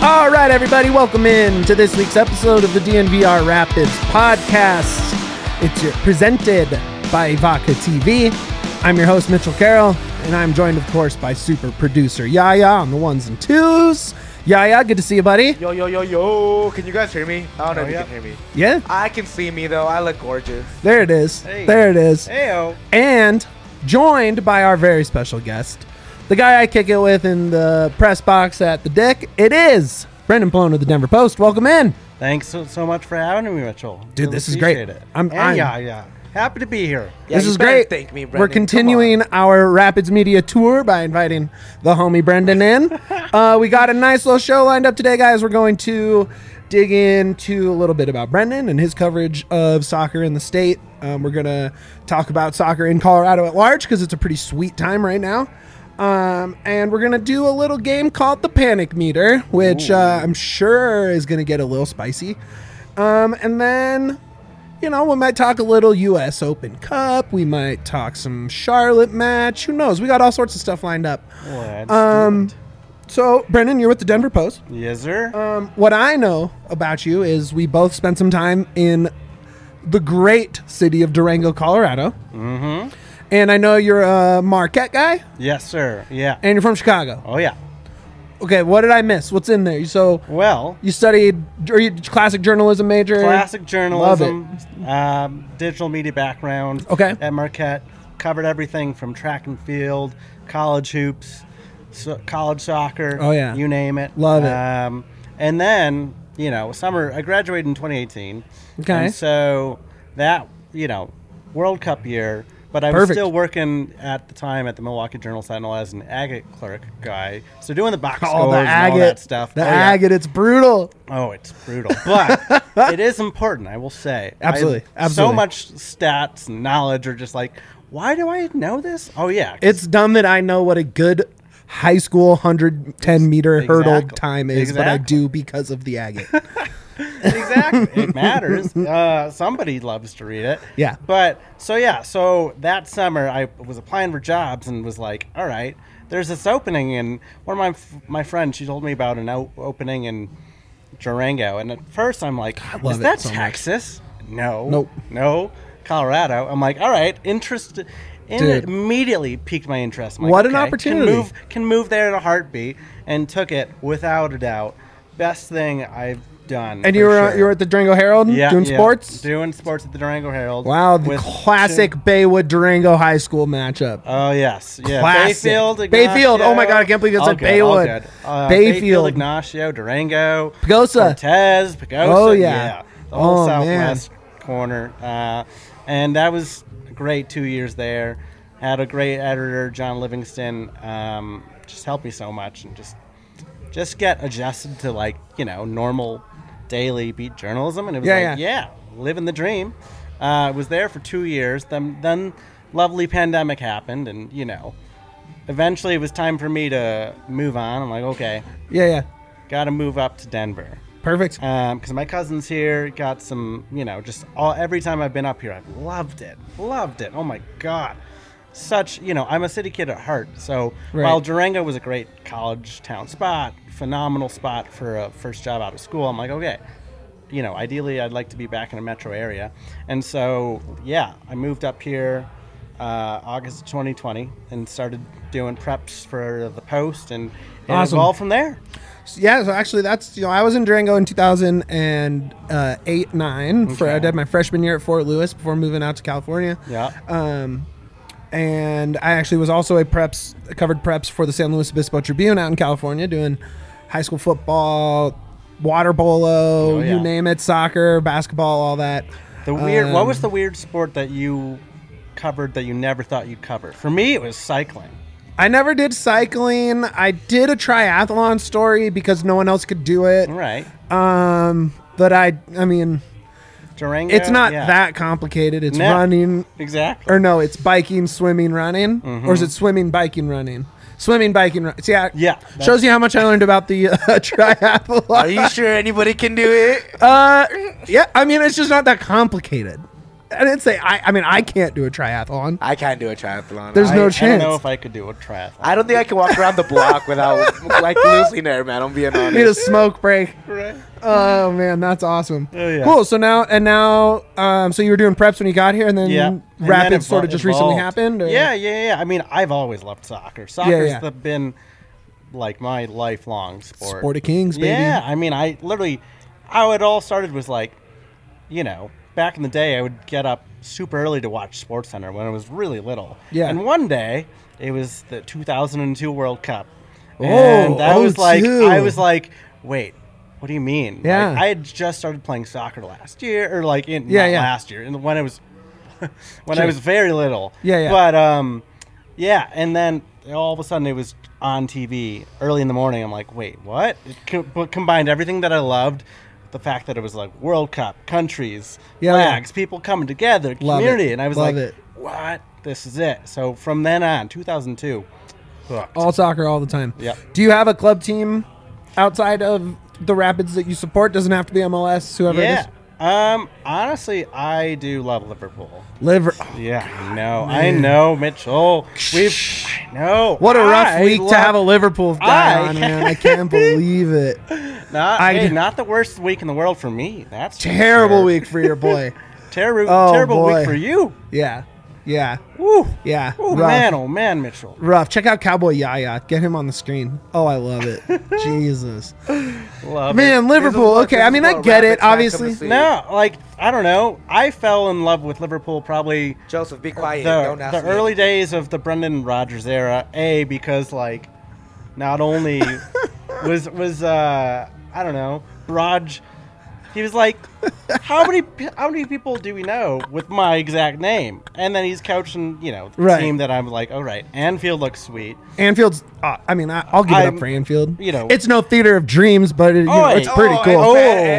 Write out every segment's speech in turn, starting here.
All right, everybody, welcome in to this week's episode of the DNVR Rapids podcast. It's presented by Vodka TV. I'm your host, Mitchell Carroll, and I'm joined, of course, by super producer Yaya on the ones and twos. Yaya, good to see you, buddy. Yo, yo, yo, yo. Can you guys hear me? I don't know if you can hear me. Yeah? I can see me, though. I look gorgeous. There it is. Hey. There it is. Heyo. And joined by our very special guest, the guy I kick it with in the press box at the Dick. It is Brendan Plone of the Denver Post. Welcome in. Thanks so much for having me, Mitchell. Dude, Really this is great. appreciate it. I'm- Yeah. Happy to be here. Yeah, This you is better great. Thank me, Brendan. We're Come continuing on. our Rapids Media tour by inviting the homie Brendan in. We got a nice little show lined up today, guys. We're going to dig into a little bit about Brendan and his coverage of soccer in the state. We're going to talk about soccer in Colorado at large because it's a pretty sweet time right now. And we're going to do a little game called the Panic Meter, which I'm sure is going to get a little spicy. And then, you know, we might talk a little U.S. Open Cup. We might talk some Charlotte match. Who knows? We got all sorts of stuff lined up. Let's do it. So, Brendan, you're with the Denver Post. Yes, sir. What I know about you is we both spent some time in the great city of Durango, Colorado. Mm-hmm. And I know you're a Marquette guy, Yes, sir. Yeah. and you're from Chicago. Oh, yeah. Okay, what did I miss? What's in there? So, Well, you studied, or you classic journalism major? classic journalism, Love digital media background. Okay. At Marquette, covered everything from track and field, college hoops, college soccer. Oh, yeah. You name it. Love it. And then, you know, I graduated in 2018. Okay. And so that, you know, World Cup year. But I was Perfect. still working at the time at the Milwaukee Journal-Sentinel as an agate clerk guy. So doing the box scores Oh, the and all agate. that stuff. The Oh, yeah. agate, it's brutal. Oh, it's brutal. But it is important, I will say. Absolutely, So absolutely. much stats and knowledge are just like, why do I know this? Oh, yeah. 'cause It's dumb that I know what a good high school 110-meter hurdle Exactly. time is, but I Exactly. do because of the agate. Exactly. It matters. Somebody loves to read it. Yeah. But so that summer I was applying for jobs and was like, all right, there's this opening, and one of my friends, she told me about an opening in Durango, and at first I'm like, love is it that so much. Texas? No. Nope. No. Colorado. I'm like, all right, interested. And Dude. it immediately piqued my interest. I'm like, What an okay, opportunity. Can move there in a heartbeat, and took it without a doubt. Best thing I've done. And for you were sure. you were at the Durango Herald doing sports? Doing sports at the Durango Herald. Wow, the with classic Baywood Durango High School matchup. Oh, yes. Yeah. Classic. Bayfield, Bayfield. Oh, my Ignacio. God, I can't believe it's All at good, all Baywood. good. Bayfield. Ignacio, Durango. Pagosa. Cortez, Pagosa. Oh, yeah. The whole Oh, southwest corner. And that was a great 2 years there. Had a great editor, John Livingston. Just helped me so much, and just get adjusted to, like, you know, normal daily beat journalism. And it was living the dream. Was there for 2 years. Then lovely pandemic happened, and, you know, eventually it was time for me to move on. I'm like, okay, Yeah. got to move up to Denver. Perfect. Because my cousin's here, got some, you know, every time I've been up here, I've loved it. Oh my God. Such, you know, I'm a city kid at heart. So Right. while Durango was a great college town spot, phenomenal spot for a first job out of school, I'm like, okay, you know, ideally I'd like to be back in a metro area. And so, yeah, I moved up here August 2020 and started doing preps for the Post, and it Awesome. evolved from there. Yeah, so actually that's, you know, I was in Durango in 2008-9. I did my freshman year at Fort Lewis before moving out to California. Yeah. And I actually was also covered preps for the San Luis Obispo Tribune out in California, doing high school football, water polo, Oh, yeah. you name it, soccer, basketball, all that. What was the weird sport that you covered that you never thought you'd cover? For me, it was cycling. I never did cycling. I did a triathlon story because no one else could do it. Right. But I mean, Durango. it's not yeah. that complicated. It's No. running, Exactly. or no, it's biking, swimming, running, or is it swimming, biking, running? Swimming, biking, running. See, Yeah. shows you how much I learned about the triathlon. Are you sure anybody can do it? Yeah, I mean, it's just not that complicated. I didn't say I mean, I can't do a triathlon. I can't do a triathlon. There's no I chance. don't know if I could do a triathlon. I don't think I can walk around the block without like losing air, man. I'm being honest. Need a smoke break. Right. Oh man, that's awesome. Oh, yeah. Cool. So now, so you were doing preps when you got here, and then Yeah. And Rapids then sort of just recently evolved. happened. Or? Yeah. I mean, I've always loved soccer. Soccer's yeah. been like my lifelong sport. Sport of Kings, baby. Yeah, I mean, how it all started was like, you know, back in the day, I would get up super early to watch SportsCenter when I was really little. Yeah. And one day, it was the 2002 World Cup. Oh, And that was like, 02. I was like, wait, what do you mean? Yeah. Like, I had just started playing soccer last year, or like, not Yeah. last year, and when I was, when Sure. I was very little. Yeah. But, yeah, and then all of a sudden it was on TV early in the morning. I'm like, wait, what? It combined everything that I loved, the fact that it was like World Cup, countries, flags, people coming together, Love community, it. and I was Love like, it. what? This is it. So from then on, 2002, hooked. All soccer all the time. Yep. Do you have a club team outside of the Rapids that you support? Doesn't have to be MLS, whoever it Yeah. is. Honestly, I do love Liverpool. Yeah, I know, Mitchell. I know. What a rough week to have a love- Liverpool guy I- on, man. I can't believe it. Not the worst week in the world for me. That's for Terrible sure. week for your boy. Terrible, Oh, terrible boy. week for you. Yeah. Woo. Yeah. Oh Rough. man, Mitchell. Rough. Check out Cowboy Yaya. Get him on the screen. Oh, I love it. Jesus. Love Man, Liverpool. Okay, I mean, I get it, obviously. No, like I don't know. I fell in love with Liverpool probably Joseph, be quiet. Don't the ask me. early days of the Brendan Rodgers era. Because like not only was I don't know, Raj. He was like, how many people do we know with my exact name? And then he's coaching, the Right. team that I'm like, all right, Anfield looks sweet. Anfield's. I mean, I'll give it up for Anfield. It's no theater of dreams, but it's pretty cool.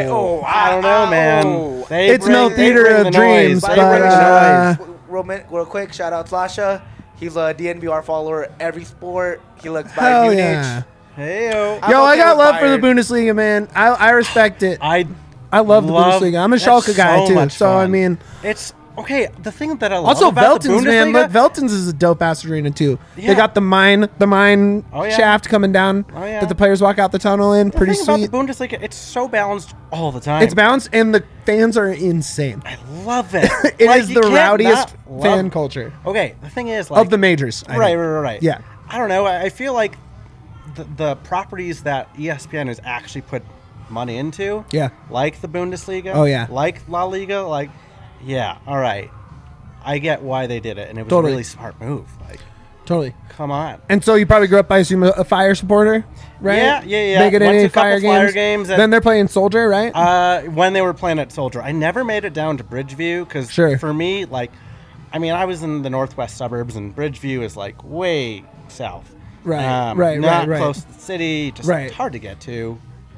I don't know, man. It's no theater of dreams, By but the way, real quick, shout out Slasha. He's a DNVR follower every sport. He looks by hell Munich. yeah. Hey-o. I'm Yo, I okay got with love for the Bayern. Bundesliga, man. I respect it. I love the love- Bundesliga. I'm a that's Schalke guy so too. much So I fun. mean, It's okay. The thing that I love also about the Veltins, man. Bundesliga- Look, Veltins is a dope ass arena too. They Yeah. got the mine Oh, yeah. shaft coming down Oh, yeah. that the players walk out the tunnel in. the Pretty thing sweet. about the Bundesliga, it's so balanced all the time. It's balanced, and the fans are insane. I love it. It Like, is you the can't rowdiest not fan love- culture Okay, the thing is, like, of the majors. I think. Right. Yeah. I don't know. I feel like the properties that ESPN has actually put money into, Yeah. like the Bundesliga, Oh, yeah. like La Liga, like, yeah, all right. I get why they did it, and it was Totally. a really smart move. Like, Totally. come on. And so you probably grew up, I assume, a Fire supporter, right? Yeah. Making Went to any a couple Fire Flyer games. games and- Then they're playing Soldier, right? When they were playing at Soldier, I never made it down to Bridgeview because Sure. for me, like, I mean, I was in the northwest suburbs, and Bridgeview is like way south. Right, not right. close to the city, just Right. hard to get to.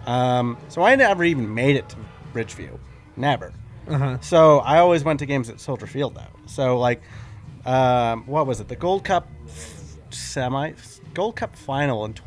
So I never even made it to Bridgeview, never. Uh-huh. So I always went to games at Soldier Field though. So like, what was it? The Gold Cup Gold Cup final in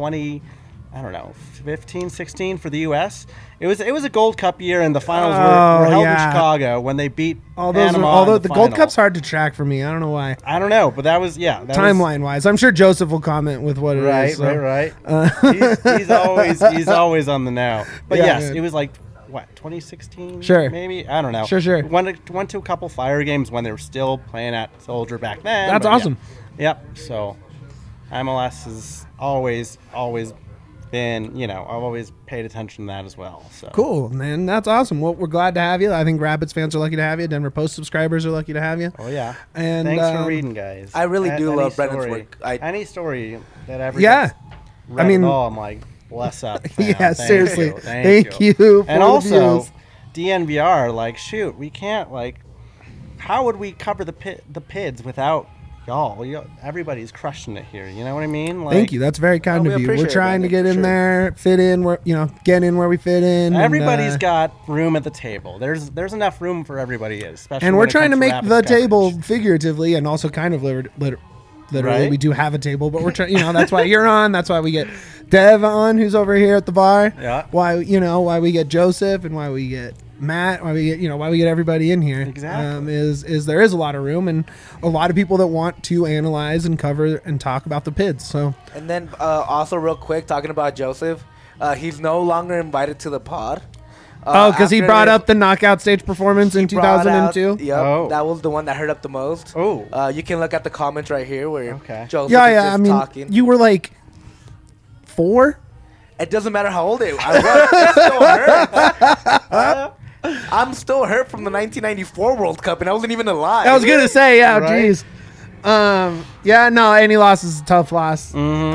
15, 16 for the U.S. It was a Gold Cup year, and the finals were held in Chicago when they beat Panama. Although in the final. Gold Cup's hard to track for me. I don't know why. I don't know, but that was that was- Timeline wise, I'm sure Joseph will comment with what it is. so. Right. He's always on the now. But Yeah, yes, man. it was like what 2016. Sure. maybe I don't know. Sure. Went to a couple Fire games when they were still playing at Soldier back then. That's but yeah. awesome. Yep. So MLS has always been, I've always paid attention to that as well. So Cool, man. That's awesome. Well, we're glad to have you. I think Rapids fans are lucky to have you. Denver Post subscribers are lucky to have you. Oh yeah. And, thanks for reading, guys. I really do Any love Brendan's story- work. Any story that ever Yeah. gets read I mean- at all, I'm like, bless up. fam. Yeah, Thank seriously. you. Thank you for And the also, views. DNVR, like, shoot, we can't, like, how would we cover the PIDs without y'all? Everybody's crushing it here. You know what I mean? Like, Thank you. That's very kind we of you. We're appreciate it, trying to Brandon, get in for sure. there, fit in where get in where we fit in. Everybody's and, got room at the table. There's enough room for everybody, especially. and when we're it trying to comes make Rapids the coverage. table figuratively and also kind of literally. Right. We do have a table, but we're trying. That's why you're on. That's why we get Dev on, who's over here at the bar. Yeah. Why we get Joseph and why we get Matt, why we get everybody in here. Exactly. Is there is a lot of room and a lot of people that want to analyze and cover and talk about the PIDs. So, And then also real quick, talking about Joseph, he's no longer invited to the pod. because he After brought his- up the knockout stage performance in he brought out- 2002. Yep, Oh. that was the one that hurt up the most. Oh. You can look at the comments right here where Okay. Joseph Yeah, is yeah. just I mean, talking. you were like 4. It doesn't matter how old I was. It still hurts. I'm still hurt from the 1994 World Cup, and I wasn't even alive. I was gonna say, yeah, Right. geez. Yeah, no, any loss is a tough loss.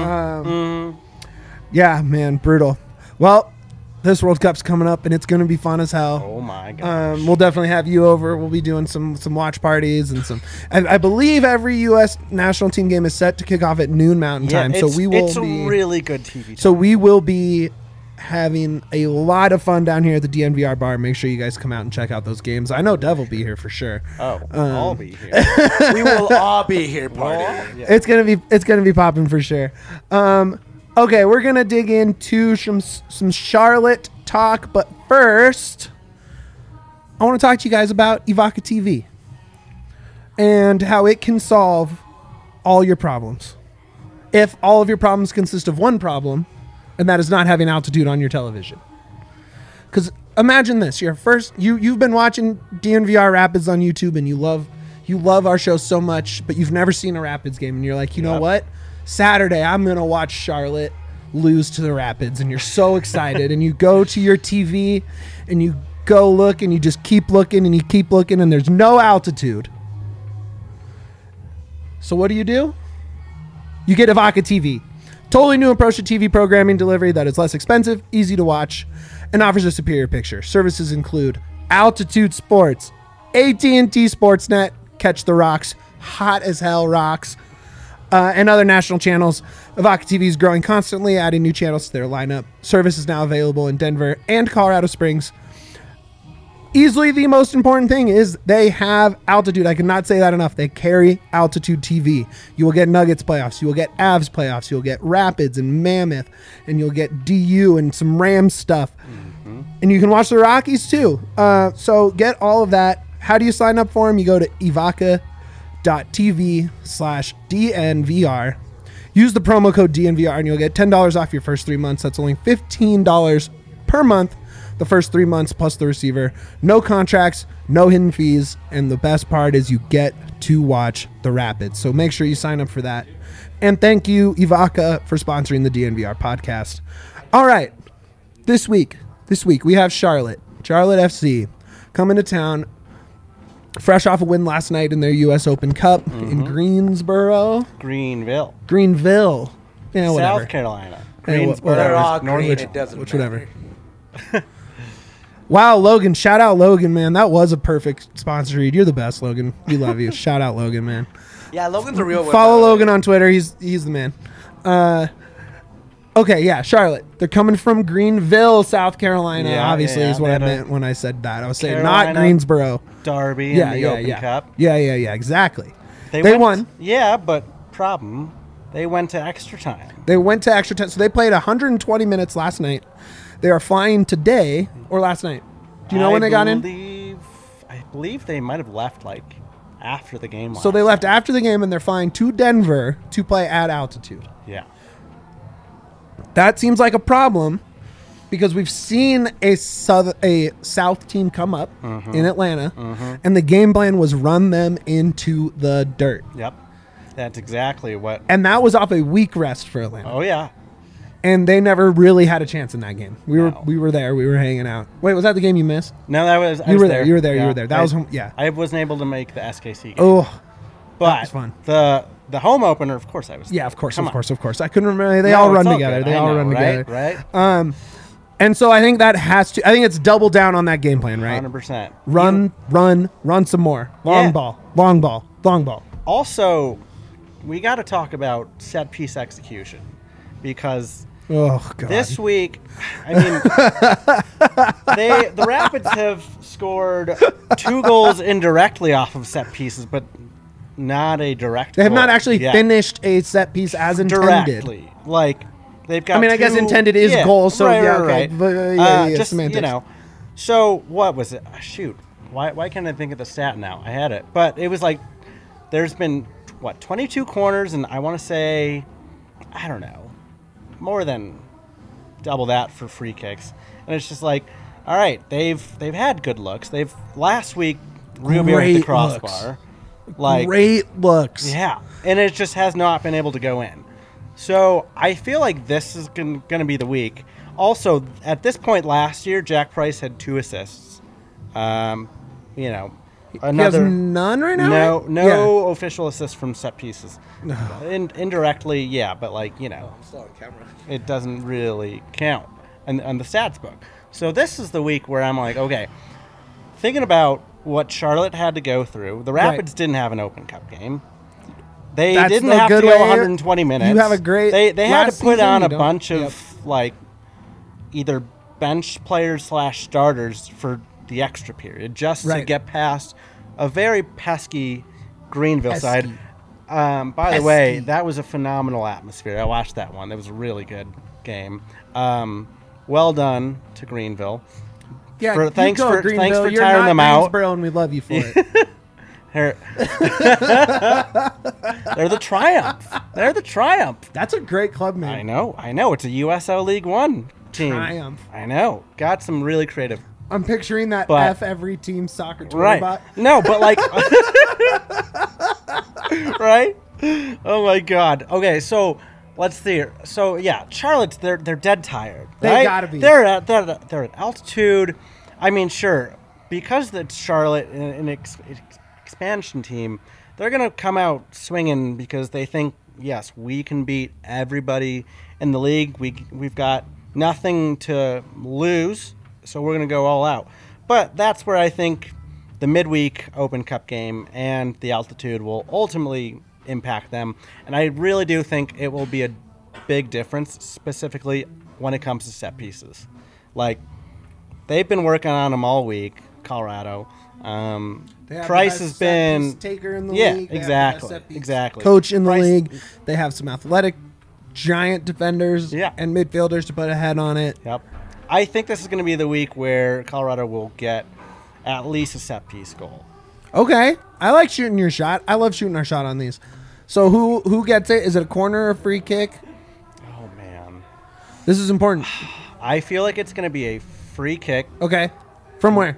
Yeah, man, brutal. Well, this World Cup's coming up, and it's gonna be fun as hell. Oh my god. We'll definitely have you over. We'll be doing some watch parties and some. I believe every U.S. national team game is set to kick off at noon Mountain time, so we will It's be. a really good TV. Time. So we will be having a lot of fun down here at the DNVR bar. Make sure you guys come out and check out those games. I know Dev will be here for sure. I'll be here. We will all be here partying. Yeah. It's gonna be popping for sure. Okay, we're gonna dig into some Charlotte talk, but first, I want to talk to you guys about Evoca TV and how it can solve all your problems. If all of your problems consist of one problem, and that is not having altitude on your television. Because imagine this: you've been watching DNVR Rapids on YouTube, and you love our show so much, but you've never seen a Rapids game, and you're like, you know Yep. what? Saturday, I'm gonna watch Charlotte lose to the Rapids, and you're so excited, and you go to your TV, and you go look, and you just keep looking, and you keep looking, and there's no altitude. So what do? You get Evoca TV. Totally new approach to TV programming delivery that is less expensive, easy to watch, and offers a superior picture. Services include Altitude Sports, AT&T Sportsnet, Catch the Rocks, hot as hell rocks, and other national channels. Evoca TV is growing constantly, adding new channels to their lineup. Service is now available in Denver and Colorado Springs. Easily the most important thing is they have altitude. I cannot say that enough. They carry Altitude TV. You will get Nuggets playoffs. You will get Avs playoffs. You'll get Rapids and Mammoth. And you'll get DU and some Rams stuff. Mm-hmm. And you can watch the Rockies too. So get all of that. How do you sign up for them? You go to evoca.tv/DNVR. Use the promo code DNVR and you'll get $10 off your first 3 months. That's only $15 per month. The first 3 months plus the receiver. No contracts, no hidden fees, and the best part is you get to watch the Rapids. So make sure you sign up for that. And thank you, Evoca, for sponsoring the DNVR podcast. All right, this week we have Charlotte FC coming to town, fresh off a win last night in their U.S. Open Cup in Greenville. Yeah, whatever. South Carolina. Hey, Greensboro. They're all Norwich. green. It doesn't Which matter. whatever. Wow, Logan. Shout out Logan, man. That was a perfect sponsor read. You're the best, Logan. We love you. Shout out Logan, man. Yeah, Logan's a real one. Follow Logan on Twitter. He's the man. Okay, yeah, Charlotte. They're coming from Greenville, South Carolina. Yeah, obviously, yeah, is what they I had a meant when I said that. I was saying Carolina not Greensboro. Derby Yeah, in the yeah, Open yeah. Cup. Yeah, exactly. They went- won. Yeah, but problem, they went to extra time. They went to extra time. So they played 120 minutes last night. They are flying today or last night. Do you know when they got in? I believe they might have left like after the game. So they left after the game and they're flying to Denver to play at altitude. Yeah. That seems like a problem because we've seen a South team come up in Atlanta, and the game plan was run them into the dirt. Yep. That's exactly what. And that was off a week rest for Atlanta. Oh yeah. And they never really had a chance in that game. We No. were there. We were hanging out. Wait, was that the game you missed? No, that was. You were there. You were there. You were there. That was yeah. I wasn't able to make the SKC game. Oh, but was fun. The home opener, of course, I was. yeah. Of course. Come Of on. course. Of course. I couldn't remember. They No, all it's run all together. good. They I all know, run right? together. Right. And so I think that has to. I think it's double down on that game plan, right? 100%. Run some more. Long Yeah. ball. Long ball. Long ball. Also, we got to talk about set piece execution because Oh god. this week, I mean, the Rapids have scored 2 goals indirectly off of set pieces, but not a direct. They have goal not actually yet. finished a set piece as intended. directly. Like they've got. I mean, I guess intended is goal, so yeah, okay. right. But, yeah, Just semantics. So what was it? Shoot, why can't I think of the stat now? I had it, but it was like there's been 22 corners, and I want to say, I don't know, more than double that for free kicks, and it's just like, all right, they've had good looks. Last week Rubio hit the Great crossbar, like Great looks. yeah, and it just has not been able to go in. So I feel like this is going to be the week. Also, at this point last year, Jack Price had 2 assists. You know, He has another none right now. no official assists from set pieces. Indirectly, yeah, but like I'm still on camera. it doesn't really count on the stats book. So this is the week where I'm like, okay, thinking about what Charlotte had to go through. The Rapids didn't have an Open Cup game. They That's didn't the have to good go way- 120 minutes. You have a great. They had to last put season, on you a don't- bunch of Yep. like either bench players / starters for the extra period just to Right. get past a very pesky Greenville Pesky. side. By the way, Pesky. that was a phenomenal atmosphere. I watched that one. It was a really good game. Well done to Greenville. Yeah, For- you thanks go, for- Greenville. thanks for You're tiring not them out. Greensboro, and we love you for it. They're the Triumph. They're the Triumph. That's a great club name. I know. It's a USL League One team. Triumph. I know. Got some really creative. I'm picturing that But- F every team soccer Twitter Right. bot. No, but like. Right? Oh my God. Okay, so let's see. So yeah, Charlotte's they're dead tired. They right? gotta be. They're at altitude. I mean, sure, because it's Charlotte an expansion team, they're gonna come out swinging because they think, yes, we can beat everybody in the league. We've got nothing to lose, so we're gonna go all out. But that's where I think the midweek Open Cup game and the altitude will ultimately impact them. And I really do think it will be a big difference, specifically when it comes to set pieces. Like, they've been working on them all week, Colorado. They have Price the has best set been... piece taker in the Yeah, league. They have the best exactly, set piece exactly. Coach in the Price- league. They have some athletic, giant defenders Yeah. and midfielders to put a head on it. Yep. I think this is going to be the week where Colorado will get at least a set piece goal. Okay, I like shooting your shot. I love shooting our shot on these. So who gets it? Is it a corner or a free kick? Oh, man. This is important. I feel like it's going to be a free kick, Okay, from where?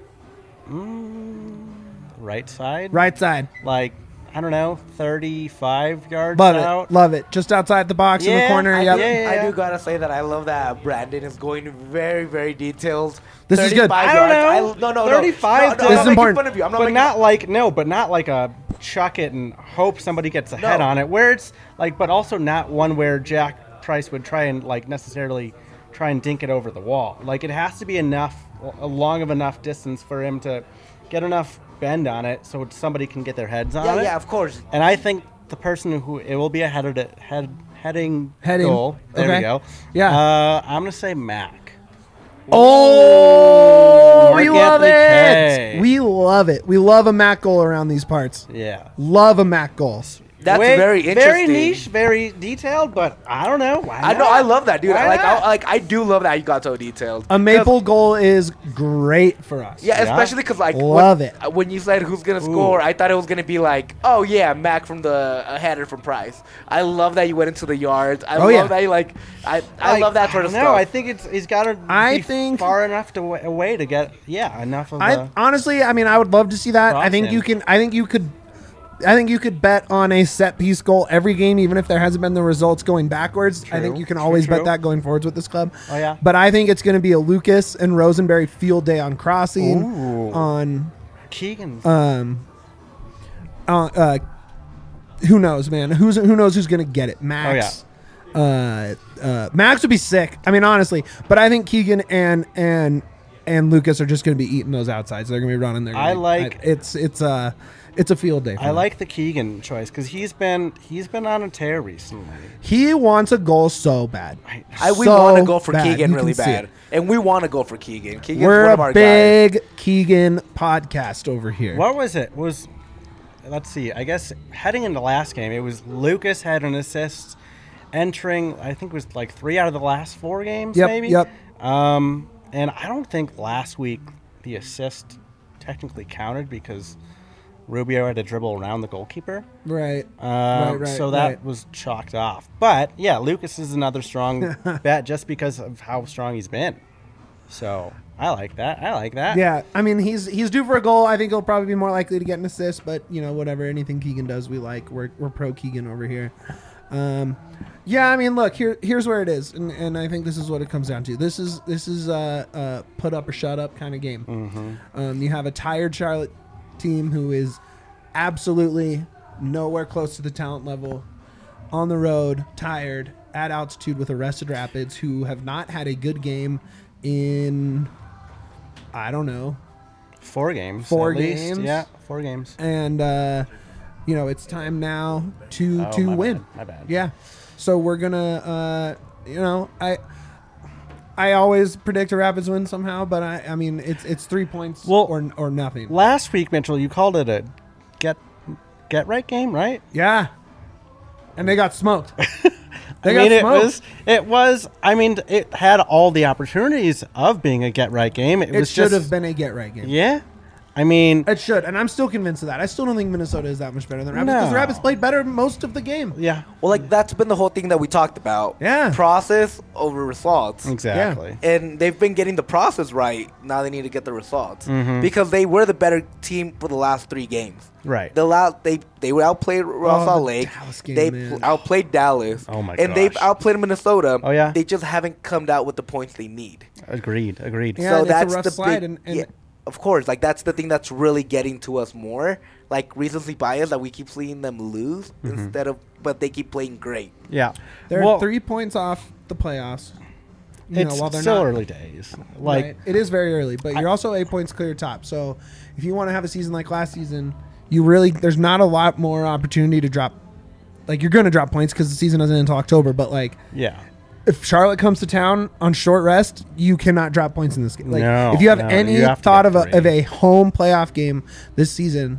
right side. Right side. Like, I don't know, 35 yards Love out. it. Love it. Just outside the box in the Yeah, corner. I- Yep. yeah. I do gotta say that I love that Brandon is going very, very detailed. This is good. 35 I don't yards. know. No. 35 No, This I'm is not making important. fun of you. I'm not But making not like a chuck it and hope somebody gets a head No. on it. Where it's like, but also not one where Jack Price would try and like necessarily try and dink it over the wall. Like, it has to be enough, a long of enough distance for him to get enough bend on it so somebody can get their heads on it. Yeah, of course. And I think the person who it will be a heading Heading. goal. There Okay. we go. Yeah. I'm gonna say Mac. Oh, Mark we love Anthony it. Kaye. We love it. We love a Mac goal around these parts. Yeah. Love a Mac goal. That's very Very interesting. niche, very detailed, but I don't know. Why I know. not? I love that, dude. Why not? I do love that you got so detailed. A maple goal is great for us. Yeah, Yeah. especially because like Love it. when you said who's gonna score, I thought it was gonna be like, oh yeah, Mac from the header from Price. I love that you went into the yards. I love yeah. that you I love that sort of No, stuff. I think he's got to I be think- far enough away to get enough of I honestly, I mean, I would love to see that. I think Cross you in. can. I think you could bet on a set piece goal every game, even if there hasn't been the results going backwards. I think True, you can true, always bet true. that going forwards with this club. Oh, yeah. But I think it's going to be a Lucas and Rosenberry field day on crossing. Ooh. On Keegan's. who knows, man? Who knows who's going to get it? Max. Max would be sick. I mean, honestly, but I think Keegan and Lucas are just going to be eating those outsides. They're going to be running there. I like- it's a field day. For I them. like the Keegan choice because he's been on a tear recently. He wants a goal so bad. we So want to go for bad. Keegan You really can see bad, it. and we want to go for Keegan. Keegan's We're one of a our guys. big Keegan podcast over here. What was it? Let's see. I guess heading into last game, it was Lucas had an assist entering. I think it was like 3 out of the last 4 games, Yep, maybe. yep. And I don't think last week the assist technically counted because Rubio had to dribble around the goalkeeper. Right. So that was chalked off. But, yeah, Lucas is another strong bet just because of how strong he's been. So, I like that. Yeah, I mean, he's due for a goal. I think he'll probably be more likely to get an assist, but, whatever. Anything Keegan does, we like. We're pro Keegan over here. Yeah, I mean, look, here's where it is, and I think this is what it comes down to. This is a put up or shut up kind of game. Mm-hmm. You have a tired Charlotte team who is absolutely nowhere close to the talent level, on the road, tired, at altitude with Arrested Rapids, who have not had a good game in, I don't know, 4 games. 4 at games. least. Yeah, 4 games. And it's time now to win. My bad. Yeah. So we're gonna I always predict a Rapids win somehow, but I mean it's 3 points or nothing. Last week, Mitchell, you called it a get right game, right? Yeah. And they got smoked. It was. I mean, it had all the opportunities of being a get right game. It should have been a get right game. Yeah. I mean, it should, and I'm still convinced of that. I still don't think Minnesota is that much better than Rapids because the Rapids played better most of the game. Yeah. Well, that's been the whole thing that we talked about. Yeah. Process over results. Exactly. Yeah. And they've been getting the process right. Now they need to get the results Mm-hmm. because they were the better team for the last 3 games. Right. They were outplayed Raw Salt Lake. Dallas game, They man. outplayed Dallas. Oh my And they've gosh. outplayed Minnesota. Oh, yeah? They just haven't come out with the points they need. Agreed. Yeah, So it's that's a rough the slide, big, and of course, that's the thing that's really getting to us more. Recency bias that we keep seeing them lose but they keep playing great. Yeah. they're 3 points off the playoffs. It's while they're still not early days. right. It is very early, but you're also 8 points clear top. So if you want to have a season like last season, there's not a lot more opportunity to drop. You're going to drop points because the season doesn't end until October. But yeah. if Charlotte comes to town on short rest, you cannot drop points in this game. No, if you have no, any you have to thought get of a home playoff game this season,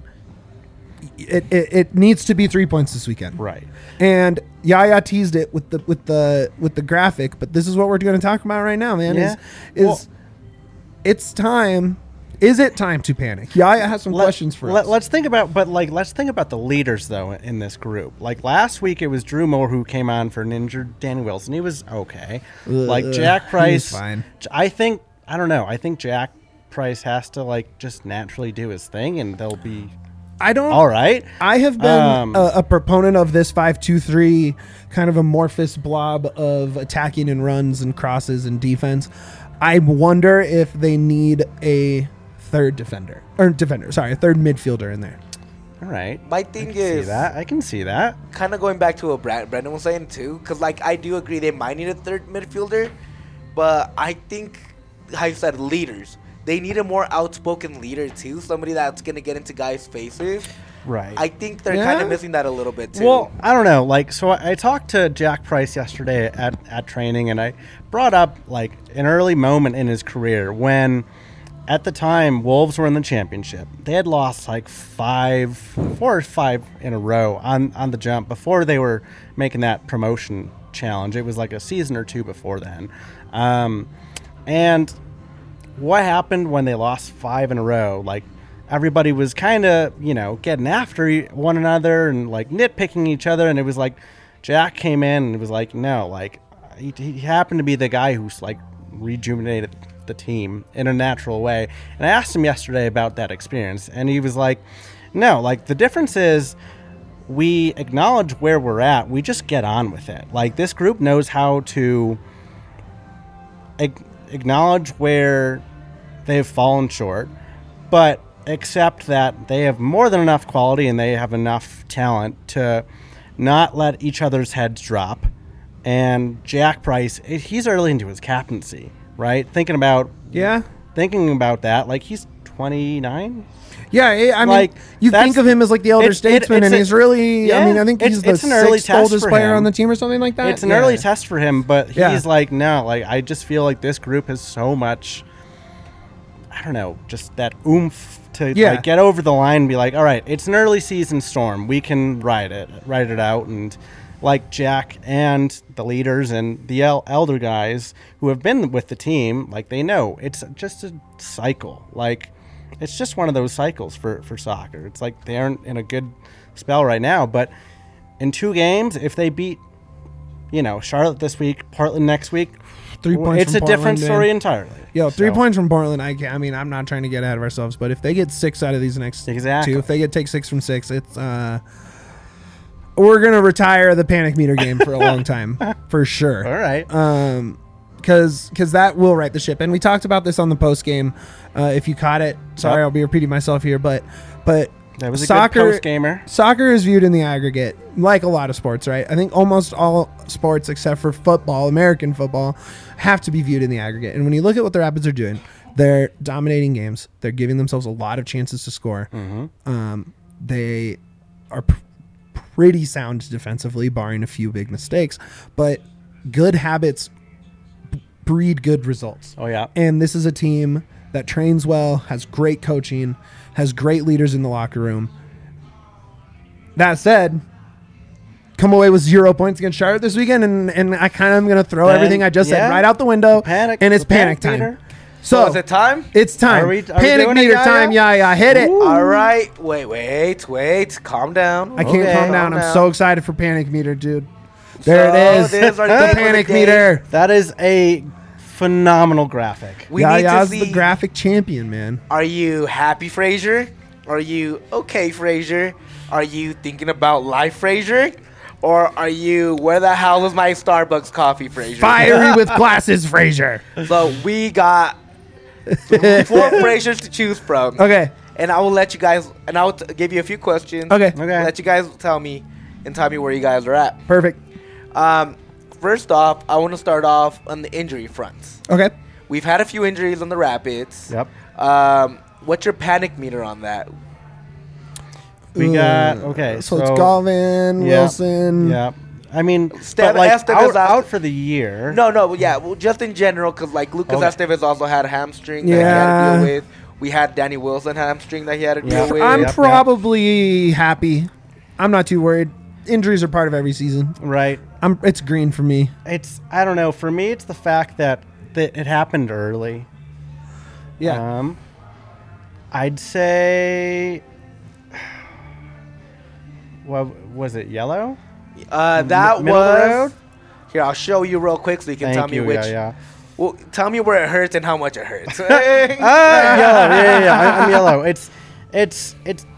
it needs to be 3 points this weekend. Right. And Yaya teased it with the graphic, but this is what we're going to talk about right now, man. Yeah. It's time. Is it time to panic? Yaya has some questions for us. Let's think about the leaders though in this group. Last week, it was Drew Moore who came on for an injured Danny Wilson. He was okay. Jack Price, fine. I don't know. I think Jack Price has to just naturally do his thing, and they'll be all right. I have been a proponent of this 5-2-3 kind of amorphous blob of attacking and runs and crosses and defense. I wonder if they need a third third midfielder in there. All right. My thing is, I can see that. kind of going back to what Brendan was saying too, because I do agree they might need a third midfielder, but I think, how you said, leaders. They need a more outspoken leader too, somebody that's gonna get into guys' faces. Right. I think they're kind of missing that a little bit too. Well, I don't know. So I talked to Jack Price yesterday at training, and I brought up an early moment in his career when, at the time, Wolves were in the championship. They had lost 4 or 5 in a row on the jump before they were making that promotion challenge. It was a season or 2 before then. And what happened when they lost 5 in a row? Everybody was kind of, getting after one another and nitpicking each other. And it was Jack came in and it was no, he happened to be the guy who's rejuvenated the team in a natural way. And I asked him yesterday about that experience, and he was no, the difference is we acknowledge where we're at. We just get on with it. This group knows how to acknowledge where they've fallen short, but accept that they have more than enough quality and they have enough talent to not let each other's heads drop. And Jack Price, he's early into his captaincy, right? Thinking about that, he's 29. Yeah, I mean, you think of him as the elder statesman, and he's really. I mean, I think he's the 6th oldest player on the team or something like that. It's an early test for him, but he's no, I just feel this group has so much. I don't know, just that oomph to get over the line and be all right, it's an early season storm. We can ride it out, and like Jack and the leaders and the elder guys who have been with the team, like they know it's just a cycle. Like it's just one of those cycles for soccer. It's like they aren't in a good spell right now, but in 2 games, if they beat, Charlotte this week, Portland next week, 3 points. It's a different story entirely. Yo, 3 points from Portland. I mean, I'm not trying to get ahead of ourselves, but if they get 6 out of these next 2, if they take 6 from 6, it's we're gonna retire the panic meter game for a long time, for sure. All right. Because that will right the ship, and we talked about this on the post game. If you caught it, sorry, I'll be repeating myself here, but that was a good post gamer. Soccer is viewed in the aggregate like a lot of sports, right? I think almost all sports except for football, American football, have to be viewed in the aggregate. And when you look at what the Rapids are doing, they're dominating games. They're giving themselves a lot of chances to score. Mm-hmm. They are pretty sound defensively, barring a few big mistakes. But good habits breed good results. Oh, yeah. And this is a team that trains well, has great coaching, has great leaders in the locker room. That said, come away with 0 points against Charlotte this weekend, and I kind of am going to throw everything I just said right out the window, and it's panic time. Meter. So is it time? It's time. Are we panic meter time. Yeah, hit it. All right. Wait. Calm down. I can't calm down. I'm so excited for panic meter, dude. There it is. There's our The panic meter. That is a phenomenal graphic. We need to see the graphic champion, man. Are you happy, Fraser? Are you okay, Fraser? Are you thinking about life, Fraser? Or are you, where the hell is my Starbucks coffee, Fraser? Fiery with glasses, Fraser. So we got 4 Frasers to choose from. Okay. And I will let you guys, and I'll give you a few questions. Okay. Let you guys tell me where you guys are at. Perfect. First off, I want to start off on the injury front. Okay. We've had a few injuries on the Rapids. Yep. What's your panic meter on that? We got So it's Galvin, Wilson. Yeah. I mean, Estevez out for the year. No, yeah. Well, just in general, because like Lucas Estevez also had a hamstring that he had to deal with. We had Danny Wilson hamstring that he had to deal with. I'm probably happy. I'm not too worried. Injuries are part of every season. Right. It's green for me. I don't know. For me, it's the fact that it happened early. Yeah. I'd say. What was it? Yellow? That Middle of the was. road? Here, I'll show you real quick so you can tell me which. Yeah. Well, tell me where it hurts and how much it hurts. Yellow. Yeah. I'm yellow. It's.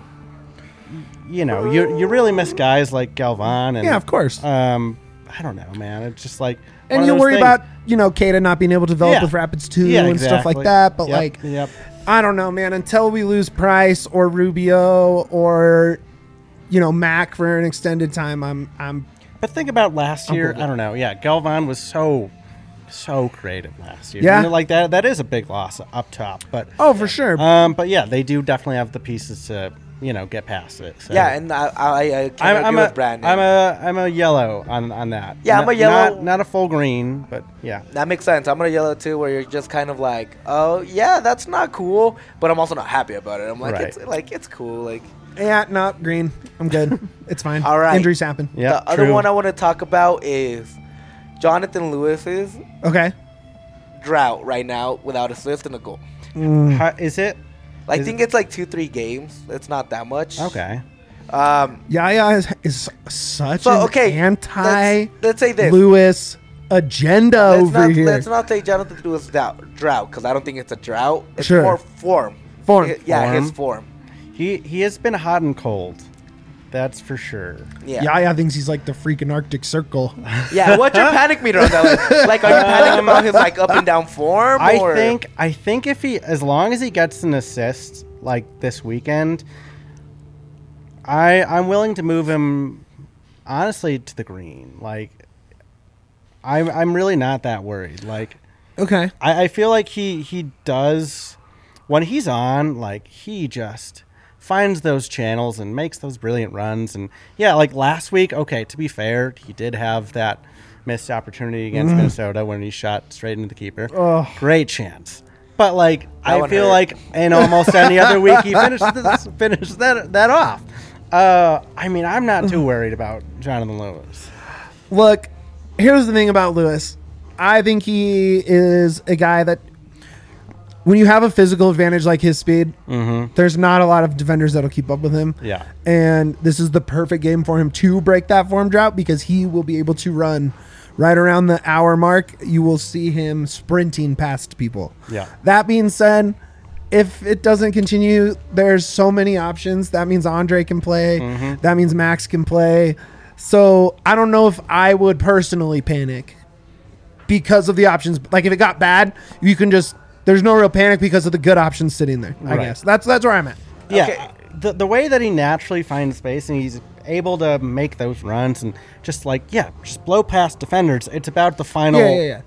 You really miss guys like Galvan and Of course. I don't know, man. It's just like and you worry about Keita not being able to develop with Rapids too and stuff like that. But I don't know, man. Until we lose Price or Rubio or Mac for an extended time, I'm. But think about last year. I don't know. Yeah, Galvan was so creative last year. Yeah, like that. That is a big loss up top. But for sure. But yeah, they do definitely have the pieces to get past it. So. Yeah, and I can't agree with Brandon. I'm a yellow on that. Yeah, I'm a yellow. Not a full green, but yeah. That makes sense. I'm a yellow too, where you're just kind of like, oh yeah, that's not cool, but I'm also not happy about it. I'm like, it's cool, like. Yeah, no, green. I'm good. It's fine. All right. Injuries happen. Yeah. The other one I want to talk about is Jonathan Lewis's drought right now without assist and a goal. Is it? I think it's like 2-3 games. It's not that much. Okay. Yaya is such an anti. Let's say this. Lewis agenda over here. Let's not say Jonathan Lewis drought because I don't think it's a drought. It's more form. His form. He has been hot and cold. That's for sure. Yeah. Yaya thinks he's like the freaking Arctic Circle. Yeah. What's your panic meter on that? Like, are you panicking about his like up and down form? I think if as long as he gets an assist like this weekend, I'm willing to move him honestly to the green. Like, I'm really not that worried. Like, okay. I feel like he does when he's on. Like, he just finds those channels and makes those brilliant runs. And yeah, like last week, okay, to be fair, he did have that missed opportunity against Minnesota when he shot straight into the keeper. Great chance. But like, I feel like in almost any other week, he finished that off. I mean, I'm not too worried about Jonathan Lewis. Look, here's the thing about Lewis. I think he is a guy that when you have a physical advantage like his speed, there's not a lot of defenders that'll keep up with him. Yeah. And this is the perfect game for him to break that form drought because he will be able to run right around the hour mark. You will see him sprinting past people. Yeah. That being said, if it doesn't continue, there's so many options. That means Andre can play. That means Max can play. So I don't know if I would personally panic because of the options. Like if it got bad, you can just, there's no real panic because of the good options sitting there. I guess that's where I'm at. Yeah. Okay. The way that he naturally finds space and he's able to make those runs and just just blow past defenders. It's about the final,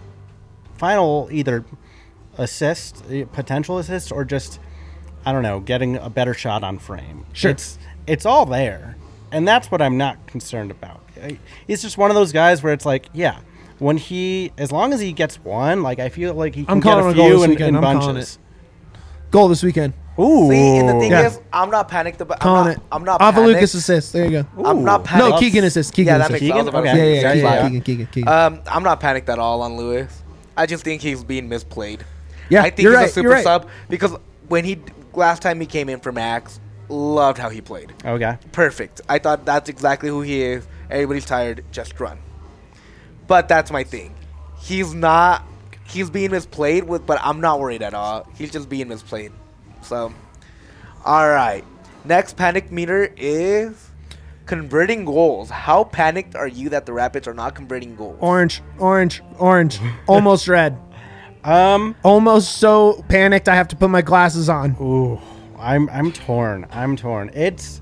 final either assist, potential assist, or just, I don't know, getting a better shot on frame. Sure. It's all there. And that's what I'm not concerned about. He's just one of those guys where it's like, when as long as he gets one, like I feel like he can get a few in bunches. Goal this weekend. Ooh. See, and the thing Yeah. is, I'm not panicked about. Calling it. I'm not Off panicked. of Lucas assist. There you go. I'm not panicked. No, Keegan assist. Keegan Yeah, that assist. makes sense. Okay. Yeah, Keegan. I'm not panicked at all on Lewis. I just think he's being misplayed. Yeah, I think you're he's right, a super you're right. sub because when last time he came in for Max, loved how he played. Okay. Perfect. I thought that's exactly who he is. Everybody's tired, just run. But that's my thing. He's being misplayed but I'm not worried at all. He's just being misplayed. So, all right. Next panic meter is converting goals. How panicked are you that the Rapids are not converting goals? Orange. Almost red. Almost so panicked I have to put my glasses on. Ooh. I'm torn. It's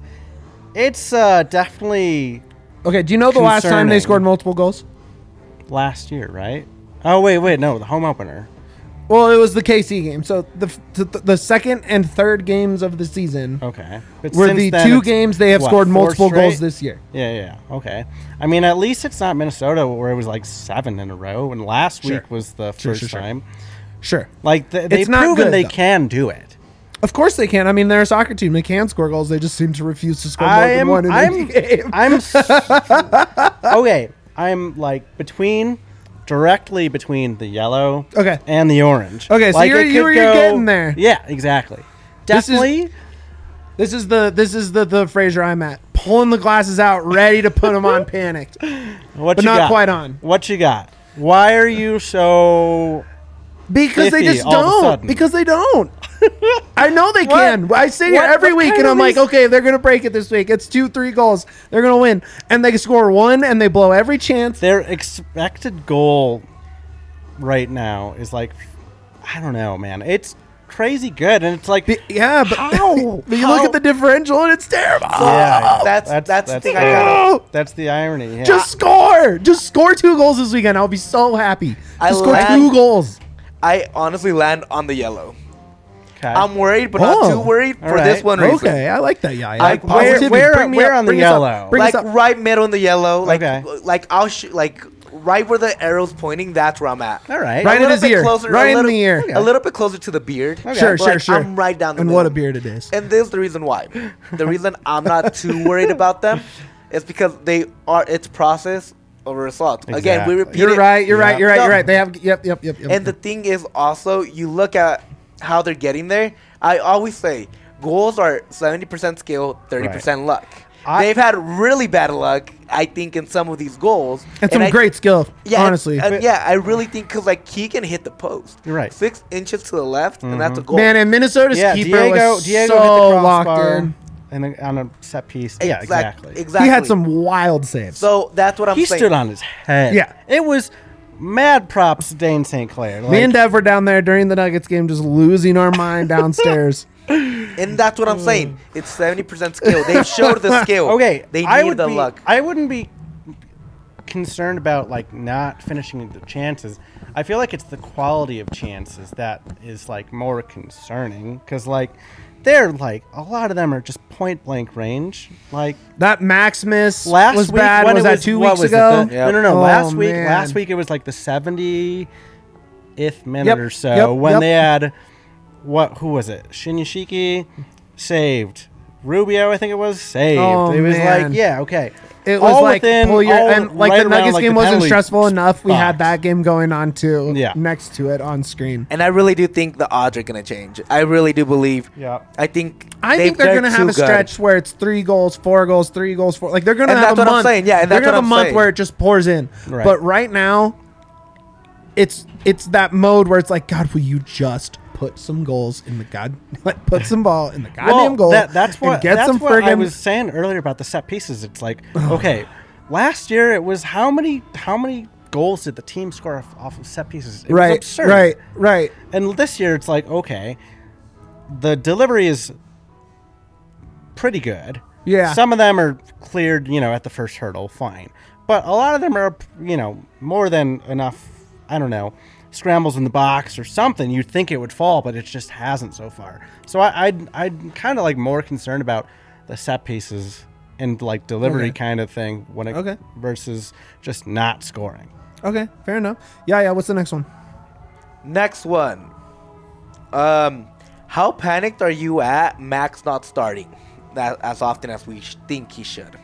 definitely Okay, do you know the last time they concerning. scored multiple goals? last year, right? Oh wait, no, the home opener. Well, it was the KC game. So the second and third games of the season Okay. But were since the then, two it's, games they have what, scored 4 multiple straight? goals this year. Yeah. Okay. I mean, at least it's not Minnesota where it was like 7 in a row, and last Sure. week was the Sure, first sure. time. Sure. Like they've It's not proven good, they though. can do it. Of course they can. I mean, they're a soccer team. They can score goals. They just seem to refuse to score more than one in any game. Okay. I'm like directly between the yellow Okay. and the orange. Okay, so Like, you're it could getting there. Yeah, exactly. This is- Definitely. This is the Fraser I'm at. Pulling the glasses out, ready to put them on panicked. What but you not got? quite on. What you got? Why are you so? Because they Iffy just all of a don't. sudden. Because they don't. I know they can. I sit here What- every what week kind and of I'm like, these- okay, they're gonna break it this week. It's 2-3 goals. They're gonna win, and they score one, and they blow every chance. Their expected goal right now is like, I don't know, man. It's crazy good, and it's like, Yeah, but How? but you look at the differential, and it's terrible. yeah, That's the thing I fair. gotta. That's the irony. Yeah. Just score. Just score 2 goals this weekend. I'll be so happy. I Just score land- 2 goals. I honestly land on the yellow. okay. I'm worried, but not Oh. too worried for All this right. one reason. Okay, I like that. Yeah, I Like, like where- positivity. where- Bring me where up, on the bring us up, yellow? bring us Like up. right middle in the yellow. Like Okay. like right where the arrow's pointing. That's where I'm at. All right. Right A in little his bit ear. closer- Right a in little- the ear. A little bit closer to the beard. Sure, But, like, sure, sure. I'm right down the And middle. what a beard it is. And this is the reason why. The reason I'm not too worried about them is because it's process over result. Again, we Exactly. repeat You're it. right. You're right. You're right. No. You're right. They have. Yep. And the thing is also, you look at how they're getting there. I always say goals are 70% skill, 30% luck. They've had really bad luck, I think, in some of these goals. and some great skill. Yeah, honestly, I really think because like he can hit the post. You're right. 6 inches to the left, and that's a goal. man. And Minnesota's Yeah, keeper was Diego so hit the locked crossbar in. and on a set piece. Yeah, exactly. Exactly. He had some wild saves. So that's what I'm He saying. stood on his head. Yeah. It was mad props to Dane St. Clair. Me and Dev were down there during the Nuggets game, just losing our mind downstairs. And that's what I'm saying. It's 70% skill. They showed the skill. Okay, They I need would the be, luck. I wouldn't be concerned about like not finishing the chances. I feel like it's the quality of chances that is like more concerning because like they're like a lot of them are just point blank range. Like That Maximus last was week bad. when Was it that was 2 what weeks was it, ago? the- Yep. No. Oh, Last week man. it was like the 70th minute Yep, or so yep, when yep. they had who was it? Shinyashiki saved Rubio, I think it was, saved. Oh, it was man. like, yeah, okay. It was All like within- pull your all and like right the around, Nuggets like, game the wasn't penalty stressful enough. We had box. that game going on too. Yeah. Next to it on screen. And I really do think the odds are gonna change. I really do believe. Yeah. I think they're gonna have a too good. stretch where it's 3 goals, 4 goals, 3 goals, 4. Like they're gonna And have that's a what I'm month. saying. Yeah, and they're that's gonna what have I'm a month saying. where it just pours in. Right. But right now, it's that mode where it's like, God, will you just put some goals in the put some ball in the goddamn goal? That's what and get that's some what I friggin' was saying earlier about the set pieces. It's like, okay, last year it was how many goals did the team score off of set pieces? It was right, absurd. right. And this year it's like, okay, the delivery is pretty good. Yeah. Some of them are cleared, at the first hurdle, fine. But a lot of them are, more than enough, I don't know, scrambles in the box or something. You'd think it would fall, but it just hasn't so far. So I'd kind of like more concerned about the set pieces and like delivery kind of thing versus just not scoring. Okay, fair enough. Yeah. What's the next one? Next one. How panicked are you at Max not starting that as often as we think he should?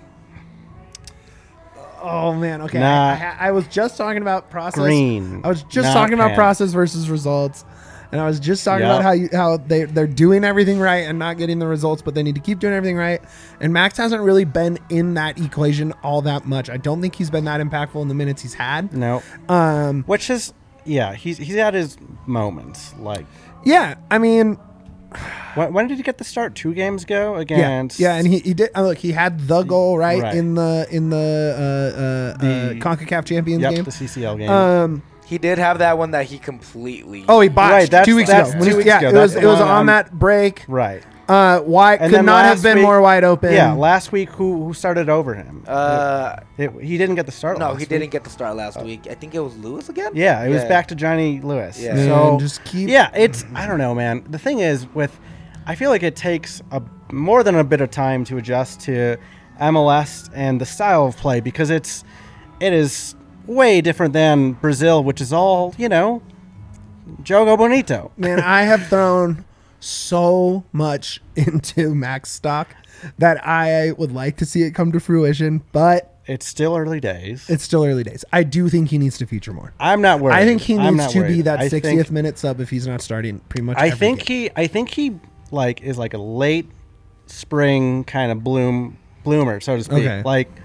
Oh man, okay. Nah. I was just talking about process. Green, I was just not talking about pan. process versus results, and I was just talking about how they're doing everything right and not getting the results, but they need to keep doing everything right. And Max hasn't really been in that equation all that much. I don't think he's been that impactful in the minutes he's had. No. Which is, he's had his moments. Like, yeah, I mean, when did he get the start? 2 games ago against. Yeah, and he did. Look, he had the goal Right. in the CONCACAF Champions game. The CCL game. He did have that one that he completely. Oh, he botched Right, that's- 2 weeks that's ago. 2 weeks ago. It was That's the one on that break. Right. Wide And could then not have last been week- more wide open. Yeah, last week who started over him? He didn't get the start. no, last he week. didn't get the start last week. I think it was Lewis again. Yeah, it was back to Johnny Lewis. Yeah. Man, So just keep. yeah, it's I don't know, man. The thing is I feel like it takes more than a bit of time to adjust to MLS and the style of play because it is way different than Brazil, which is all Jogo Bonito. Man, I have thrown so much into Max stock that I would like to see it come to fruition, but It's still early days. it's still early days. I do think he needs to feature more. I'm not worried. I think he I'm needs not to be worried. that I 60th think- minute sub if he's not starting pretty much I every think game. he is like a late spring kind of bloomer, so to speak. Okay. Like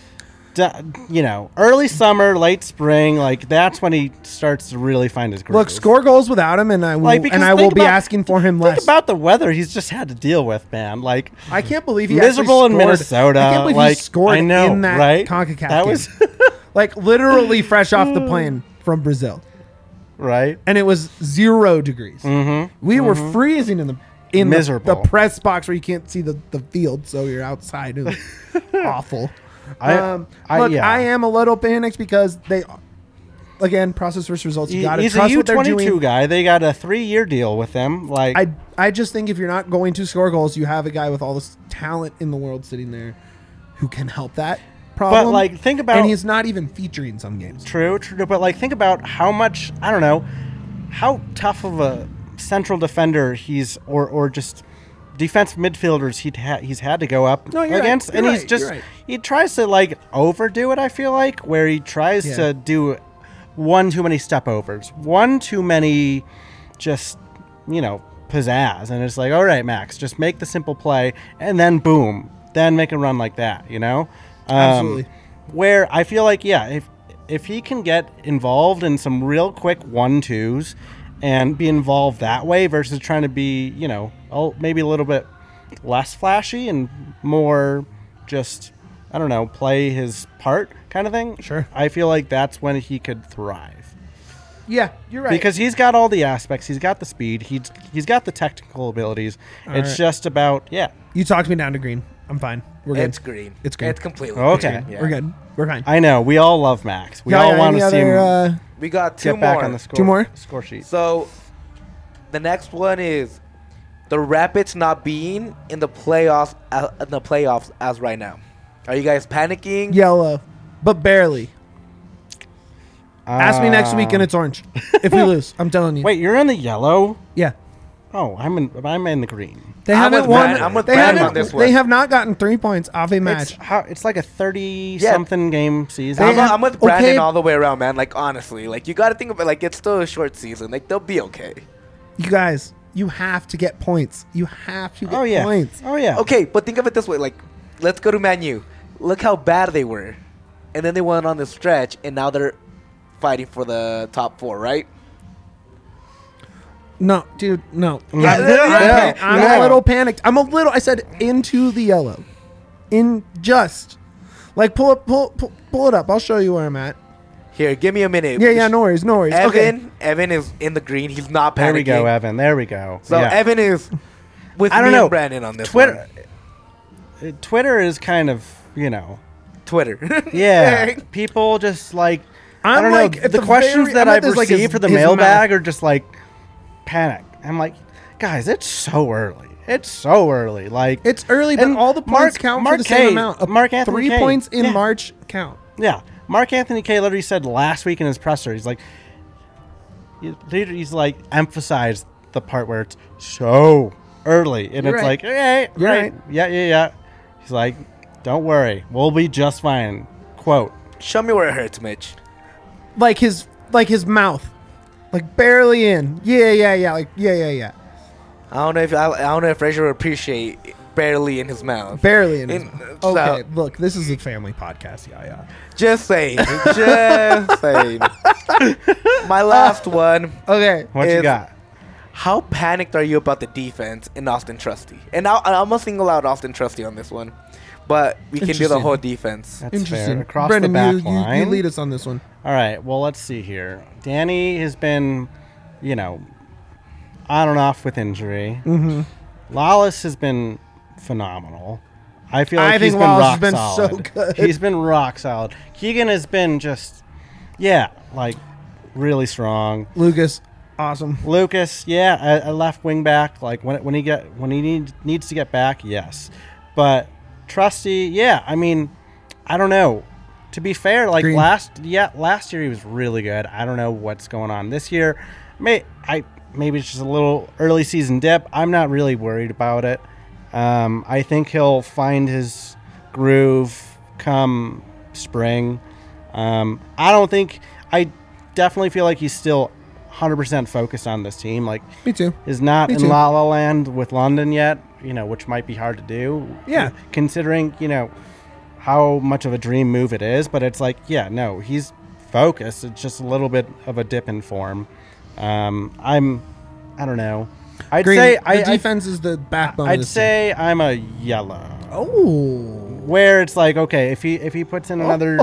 early summer, late spring, like that's when he starts to really find his groove. Look, score goals without him, and I will, Like, because and I will think be about- asking for him Think less. about the weather he's just had to deal with, man. Like I can't believe he miserable in actually scored. Minnesota. I can't believe like, he scored I know, in that right? CONCACAF That game. was like literally fresh off the plane from Brazil, right. and it was 0 degrees. Mm-hmm. We were freezing in the Miserable. the press box where you can't see the field, so you're outside. It was awful. I am a little panicked because they, again, process versus results. You got to He's a trust what they're U22 doing. guy. They got a 3-year deal with him. Like I just think if you're not going to score goals, you have a guy with all this talent in the world sitting there who can help that problem. But like, think about and he's not even featuring some games. True, but like think about how much I don't know how tough of a central defender he's or just defensive midfielders he's had to go up No, you're against, right. and You're he's right. just You're right. he tries to like overdo it. I feel like where he tries Yeah. to do one too many step overs, one too many, just pizzazz, and it's like, all right, Max, just make the simple play, and then boom, then make a run like that, Absolutely. Where I feel like, if he can get involved in some real quick 1-2s and be involved that way versus trying to be, maybe a little bit less flashy and more just, I don't know, play his part kind of thing. Sure. I feel like that's when he could thrive. Yeah, you're right. Because he's got all the aspects. He's got the speed. He's got the technical abilities. It's right. just about, you talked me down to green. I'm fine. We're good. It's green. It's green. It's completely Okay. green. Yeah. We're good. We're fine. I know. We all love Max. We Yeah, all want any to see him other, We got two get back more. on the score, 2 more? score sheet. So the next one is the Rapids not being in the playoffs as right now. Are you guys panicking? yellow, but barely. Ask me next week and it's orange. If we lose, I'm telling you. Wait, you're in the yellow? Yeah. Oh, I'm in the green. They I'm haven't with won. Brandon. I'm with they Brandon haven't. on this They one. have not gotten 3 points off a match. It's like a 30-something game season. They have- I'm with Brandon okay. all the way around, man. Like, honestly, like, you got to think about, like, it's still a short season. Like, they'll be okay. You guys, you have to get points. You have to get Oh yeah. points. Oh yeah. Okay, but think of it this way. Like, let's go to Man U. Look how bad they were. And then they went on this stretch, and now they're fighting for the top 4, right? No, dude, no. Yeah, I'm no. a little panicked. I said into the yellow. In just. Like, pull it up. I'll show you where I'm at. Here, give me a minute. Yeah, no worries. Evan is in the green. He's not panicking. There we go, Evan. There we go. So yeah. Evan is with I don't me know. and Brandon on this Twitter. one. Twitter is kind of, Twitter. yeah. People just like I I'm don't like, know. at The the questions very- that I'm at I've this, like, received his- for the his mailbag mouth. are just like panic. I'm like, guys, it's so early. It's so early. Like It's early, but and all the points count for the same amount. Mark Anthony 3 Kay. points in Yeah. March count. Yeah, Mark Anthony Kay literally said last week in his presser, he's like, he's like emphasized the part where it's so early, and You're it's right. like, hey, You're right. yeah. He's like, don't worry, we'll be just fine. Quote. Show me where it hurts, Mitch. Like his mouth. Like barely in. Yeah. Like yeah. I don't know if Fraser would appreciate barely in his mouth. Barely in. In- Okay, so- look, this is a family podcast. Yeah. Just saying. Just saying. My last one. Okay. What you If- got? How panicked are you about the defense in Austin Trusty? And I'm gonna single out Austin Trusty on this one, but we can do the Interesting. whole defense. That's Interesting. fair. Across Brendan, the back you line. lead us on this one. All right. Well, let's see here. Danny has been, on and off with injury. Mm-hmm. Lawless has been phenomenal. I feel like I he's think been Lawless rock has been solid. so good. He's been rock solid. Keegan has been just, really strong. Lucas, awesome. Lucas, a left wing back. Like when he needs to get back, yes. But Trusty, I don't know. To be fair, like Green. last year he was really good. I don't know what's going on this year. Maybe it's just a little early season dip. I'm not really worried about it. I think he'll find his groove come spring. I definitely feel like he's still 100% focused on this team. Like, Me too. is not Me in too. La La Land with London yet, which might be hard to do. Yeah. Considering, how much of a dream move it is. But it's like, he's focused. It's just a little bit of a dip in form. I don't know. I'd Green, say the defense is the backbone. of I'd this say I'm a yellow. team. Oh. Where it's like, okay, if he puts in another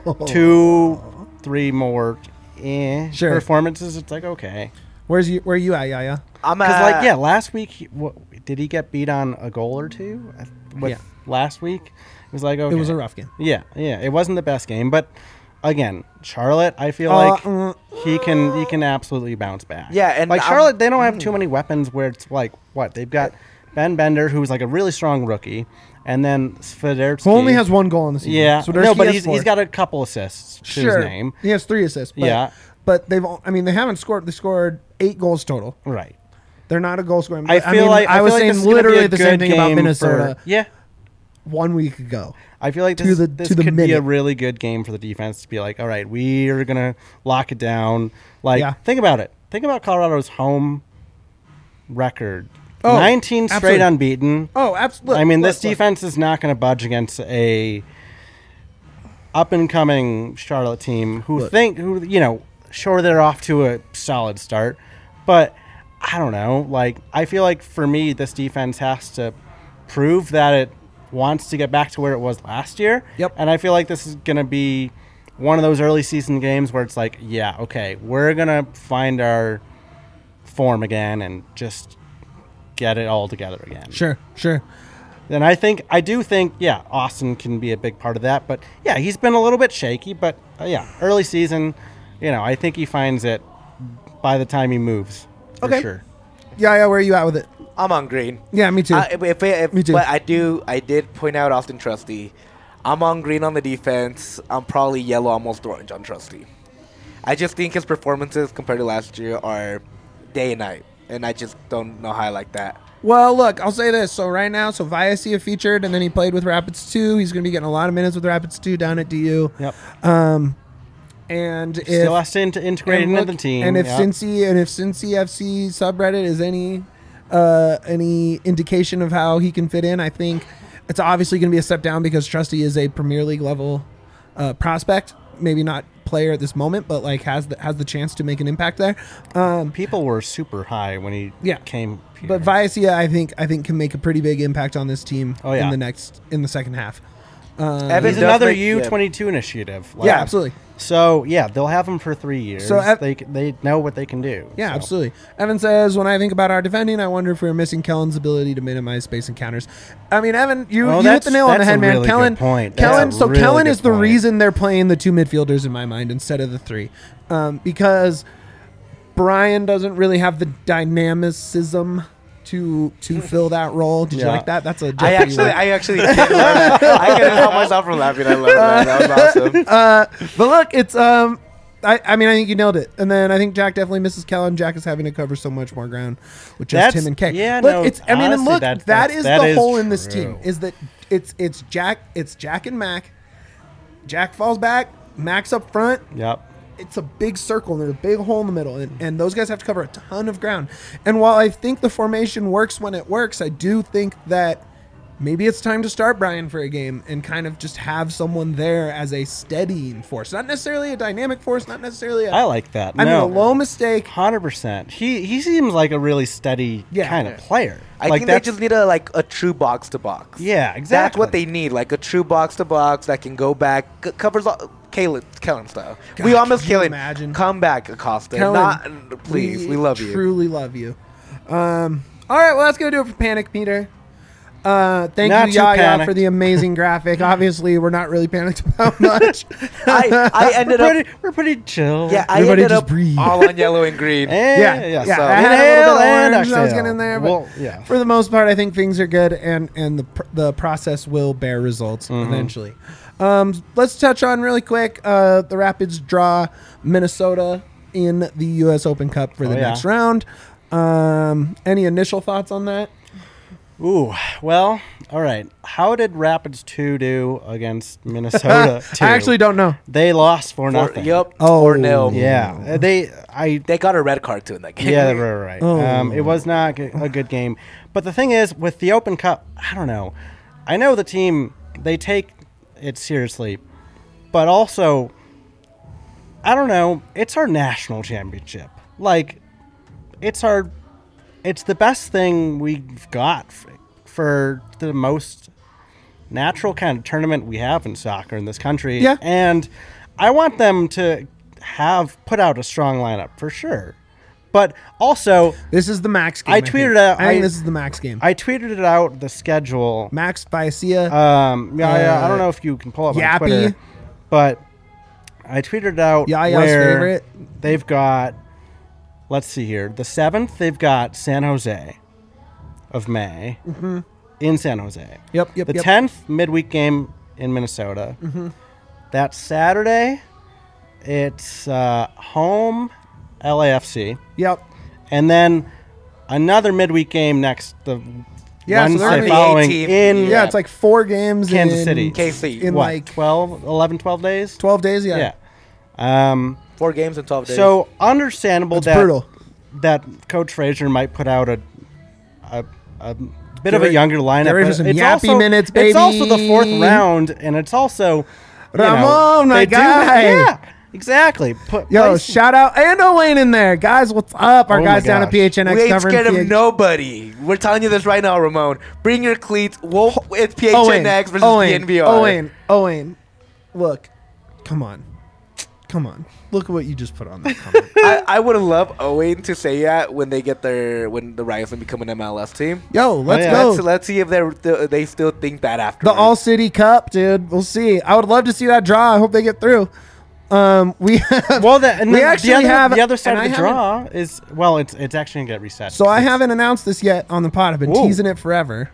2-3 more Sure. performances, it's like, okay. Where are you at, Yaya? I'm Because last week did he get beat on a goal or two? Last week it was like, okay, It was a rough game. Yeah, it wasn't the best game, but again, Charlotte, I feel like he can absolutely bounce back. Yeah, and like Charlotte, they don't have too many weapons. Where it's like, what they've got Ben Bender, who's like a really strong rookie, and then Swiderski, Who only has 1 goal in the season. yeah, So no, but has 4. he's got a couple assists to sure. his name. He has 3 assists. But, Yeah. But they haven't scored. They scored 8 goals total. Right. They're not a goal scoring. I feel like I was feel like saying this is gonna be literally a the same good thing about game Minnesota for- 1 week ago. I feel like To this the could be a minute. really good game for the defense to be like, all right, we are gonna lock it down. Like, Yeah. think about it. Think about Colorado's home record. Oh, 19 straight absolutely. unbeaten. Oh, absolutely. I mean, this defense is not going to budge against a up and coming Charlotte team who sure they're off to a solid start, but I don't know. Like, I feel like for me, this defense has to prove that it wants to get back to where it was last year. Yep. And I feel like this is going to be one of those early season games where it's like, yeah, okay, we're going to find our form again and just get it all together again. Sure. Then I do think, Austin can be a big part of that. But yeah, he's been a little bit shaky. But early season, I think he finds it by the time he moves. For Okay. sure. Yaya, where are you at with it? I'm on green. Yeah, me too. Me too. But I did point out Austin Trusty. I'm on green on the defense. I'm probably yellow, almost orange on Trusty. I just think his performances compared to last year are day and night. and I just don't know how I like that. Well, look, I'll say this. So right now, Viacia featured, and then he played with Rapids 2. He's going to be getting a lot of minutes with Rapids 2 down at DU. Yep. And if Still has to integrate into the team. and if yep. Cincy FC subreddit is any indication of how he can fit in, I think it's obviously going to be a step down because Trusty is a Premier League level prospect. Maybe not player at this moment, but like has the chance to make an impact there. People were super high when he came here. But Viacia, I think can make a pretty big impact on this team Oh, yeah. in the second half. He's another U22 initiative. Like, Yeah, absolutely. So yeah, they'll have him for 3 years. So they know what they can do. Yeah, so. absolutely. Evan says, when I think about our defending, I wonder if we're missing Kellen's ability to minimize space encounters. I mean, Evan, you hit the nail on the head, man. Really Kellen, good point. Kellen Really is the reason they're playing the two midfielders in my mind instead of the three, because Brian doesn't really have the dynamicism to fill that role. Did you like that? That's a I actually did love that. I couldn't help myself from laughing. I love that. That was awesome. But look, it's I mean, I think you nailed it. And then I think Jack definitely misses Kellen. Jack is having to cover so much more ground with just him and Kay. Yeah, look, no, it's I mean, honestly, and look, that is the hole in this true. team. Is that it's Jack and Mac. Jack falls back, Mac's up front. Yep. It's a big circle and there's a big hole in the middle, and those guys have to cover a ton of ground. And while I think the formation works when it works, I do think that maybe it's time to start Brian for a game and kind of just have someone there as a steadying force, not necessarily a dynamic force, not necessarily. I like that. I mean, a low mistake. 100%. He seems like a really steady kind of player. I think they just need a true box to box. Yeah, exactly. That's what they need, like a true box to box that can go back, covers all, Kellen style. God, we almost can you Kellen. imagine? Come back, Acosta. Kellen, Please, we love you. Truly love you. All right, well, that's gonna do it for Panic Meter. Thank Not you, too Yaya, panicked. for the amazing graphic. Obviously, we're not really panicked about much. I ended up. We're pretty chill. Yeah, I Everybody ended just up breathe. all on yellow and green. Yeah. So I had a inhale little bit of and orange that was exhale. getting in there, but Well, yeah. for the most part, I think things are good, and the process will bear results Mm-hmm. eventually. Let's touch on really quick the Rapids draw Minnesota in the U.S. Open Cup for the next round. Any initial thoughts on that? Ooh, well, all right. How did Rapids 2 do against Minnesota 2? I actually don't know. They lost 4-0. Yep. Oh. 4-0. Yeah. They got a red card too in that game. Yeah, right. Oh. It was not a good game. But the thing is, with the Open Cup, I don't know. I know the team, they take it seriously. But also, I don't know, it's our national championship. Like, it's the best thing we've got for the most natural kind of tournament we have in soccer in this country. Yeah. And I want them to put out a strong lineup for sure. But also, This is the max game. I tweeted out- I think I- this is the max game. I tweeted it out, the schedule. Max Viacia. I don't know if you can pull up my Yappy. Twitter, but I tweeted it out Yaya's where favorite. they've got, let's see here, the 7th, they've got San Jose of May in San Jose. Yep. The 10th, midweek game in Minnesota. That Saturday, it's home LAFC. Yep. And then another midweek game the Yeah, so they're Wednesday gonna be following 18. in Yeah, it's like 4 games Kansas in City. KC. in what, like 12 days? 12 days. Yeah. Yeah. 4 games in 12 days. So understandable It's brutal. that Coach Frazier might put out a bit of a younger lineup. get ready for but some it's yappy also, minutes, It's also the baby. 4th round, and it's also Ramon, my they do- guy. yeah, exactly. Yo, shout out and Owain in there, guys. What's up? Our Oh guys my down at gosh. PHNX we ain't covering scared of PH. nobody. We're telling you this right now, Ramon. Bring your cleats. It's PHNX versus DNVR. Owain, look, come on. Look at what you just put on that comment. I would have loved Owen to say that when they get when the Riots become an MLS team. Yo, let's yeah. go. Let's see if they still think that after The All City Cup, dude. We'll see. I would love to see that draw. I hope they get through. We have, Well, we actually have the other side and of the I haven't- draw is it's actually gonna get reset. So I haven't announced this yet on the pod. I've been Whoa. teasing it forever.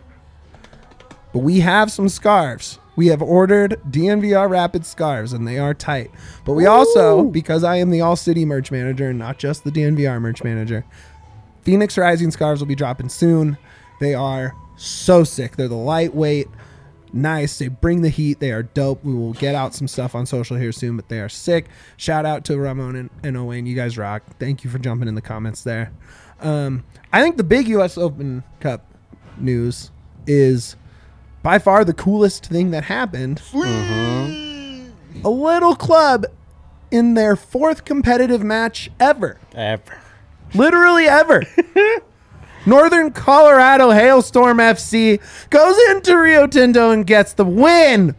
But we have some scarves. We have ordered DNVR Rapid scarves, and they are tight. But we also, because I am the All City merch manager and not just the DNVR merch manager, Phoenix Rising scarves will be dropping soon. They are so sick. They're the lightweight, nice. They bring the heat. They are dope. We will get out some stuff on social here soon, but they are sick. Shout out to Ramon and Owain. You guys rock. Thank you for jumping in the comments there. I think the big U.S. Open Cup news is by far the coolest thing that happened. A little club in their 4th competitive match ever. Literally ever. Northern Colorado Hailstorm FC goes into Rio Tinto and gets the win.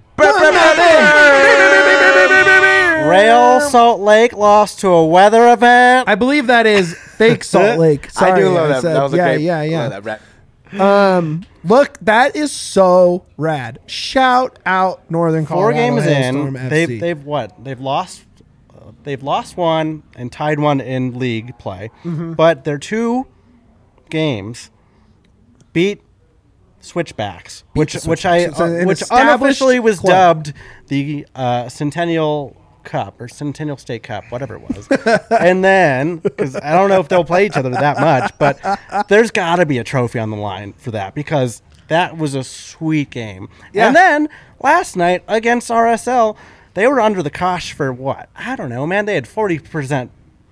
Real Salt Lake lost to a weather event. I believe that is fake Salt Lake. Sorry, I do love that. said- That was a yeah, great. yeah, yeah. Love that rap. Look, that is so rad. Shout out Northern 4 Colorado games Hailstorm in, FC. they've what? They've lost one and tied one in league play, but their 2 games beat Switchbacks, which Switchbacks. So an which established unofficially was club. dubbed the Centennial Cup or Centennial State Cup, whatever it was. And then, because I don't know if they'll play each other that much, but there's got to be a trophy on the line for that because that was a sweet game. Yeah. And then last night against RSL, they were under the cosh for what? I don't know, man. They had 40%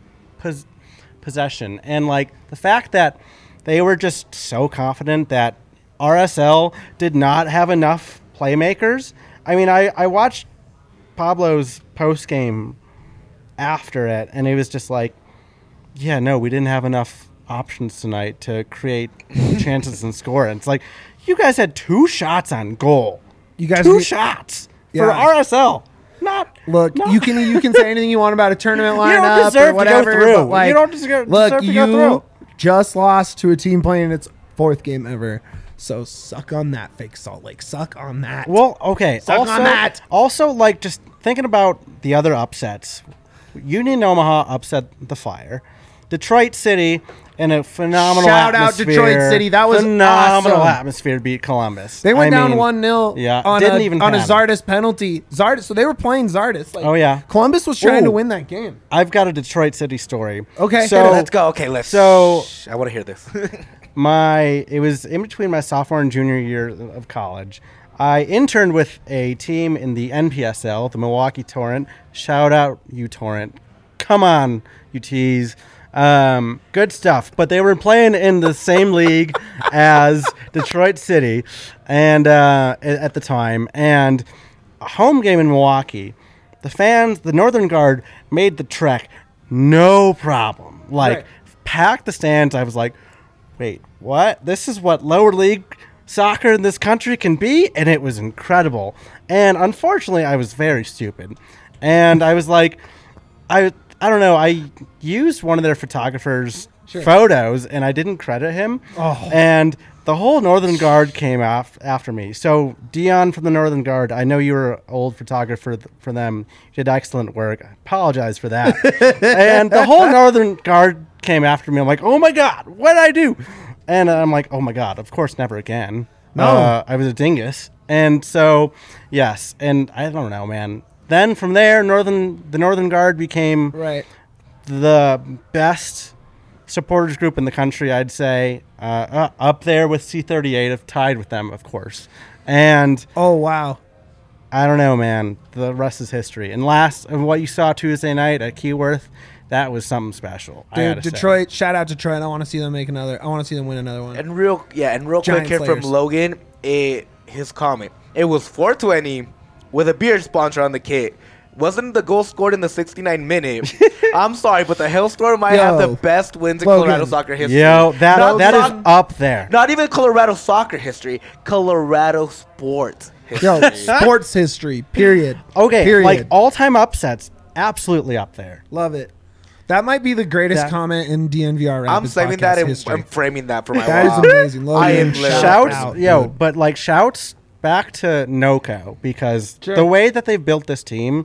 possession. And, like, the fact that they were just so confident that RSL did not have enough playmakers. I mean, I watched Pablo's post-game after it, and it was just like, yeah, no, we didn't have enough options tonight to create chances and score. And it's like, you guys had 2 shots on goal. You guys 2 need- shots Yeah. for RSL. Look, you can say anything you want about a tournament don't lineup deserve to or go whatever. through. But like, You don't deserve look, to you go through. just lost to a team playing its 4th game ever. So suck on that, fake Salt Lake. Suck on that. Well, okay. Suck on that. Also, like, just thinking about the other upsets. Union Omaha upset the Fire. Detroit City in a phenomenal Shout out atmosphere. Detroit City. That was phenomenal awesome. atmosphere to beat Columbus. They went I down mean, 1-0 yeah, on, didn't a, even on a panic. Zardes penalty. Zardes, so they were playing Zardes. Like, Oh, yeah. Columbus was trying to Ooh. win that game. I've got a Detroit City story. Okay. So Let's go. Okay, let's. So- I want to hear this. It was in between my sophomore and junior year of college. I interned with a team in the NPSL, the Milwaukee Torrent. Shout out, you Torrent. Come on, you tease. Good stuff. But they were playing in the same league as Detroit City and at the time. And a home game in Milwaukee, the fans, the Northern Guard, made the trek no problem. Like, Right. packed the stands. I was like, wait, what? This is what lower league soccer in this country can be? And it was incredible. And unfortunately, I was very stupid. And I was like, I don't know. I used one of their photographers' photos, and I didn't credit him. Oh. And the whole Northern Guard came after me. So, Dion from the Northern Guard, I know you were an old photographer for them. You did excellent work. I apologize for that. And the whole Northern Guard came after me. I'm like, oh, my God, what did I do? And I'm like, oh, my God, of course, never again. No. I was a dingus. And so, yes. And I don't know, man. Then from there, the Northern Guard became Right. the best supporters group in the country, I'd say. Up there with C38, I've tied with them, of course. And Oh, wow. I don't know, man. The rest is history. And what you saw Tuesday night at Keyworth, that was something special. I Dude, gotta say. Detroit, shout out Detroit. I want to see them make another. I want to see them win another one. And real Giant quick here Slayers. from Logan, his comment. It was 420 with a beer sponsor on the kit. Wasn't the goal scored in the 69th minute? I'm sorry, but the Hailstorm might have the Yo, best wins in Logan. Colorado soccer history. Yo, that is not, up there. not even Colorado soccer history, Colorado sports history. Yo, sports history. Period. Okay, Period. like all-time upsets, absolutely up there. Love it. That might be the greatest That- comment in DNVR I'm Rapids saving podcast that and history. I'm framing that for my That is wall. amazing. Logan, I am shout Shouts, out, yo, dude. but like shouts back to NOCO because Sure. the way that they've built this team,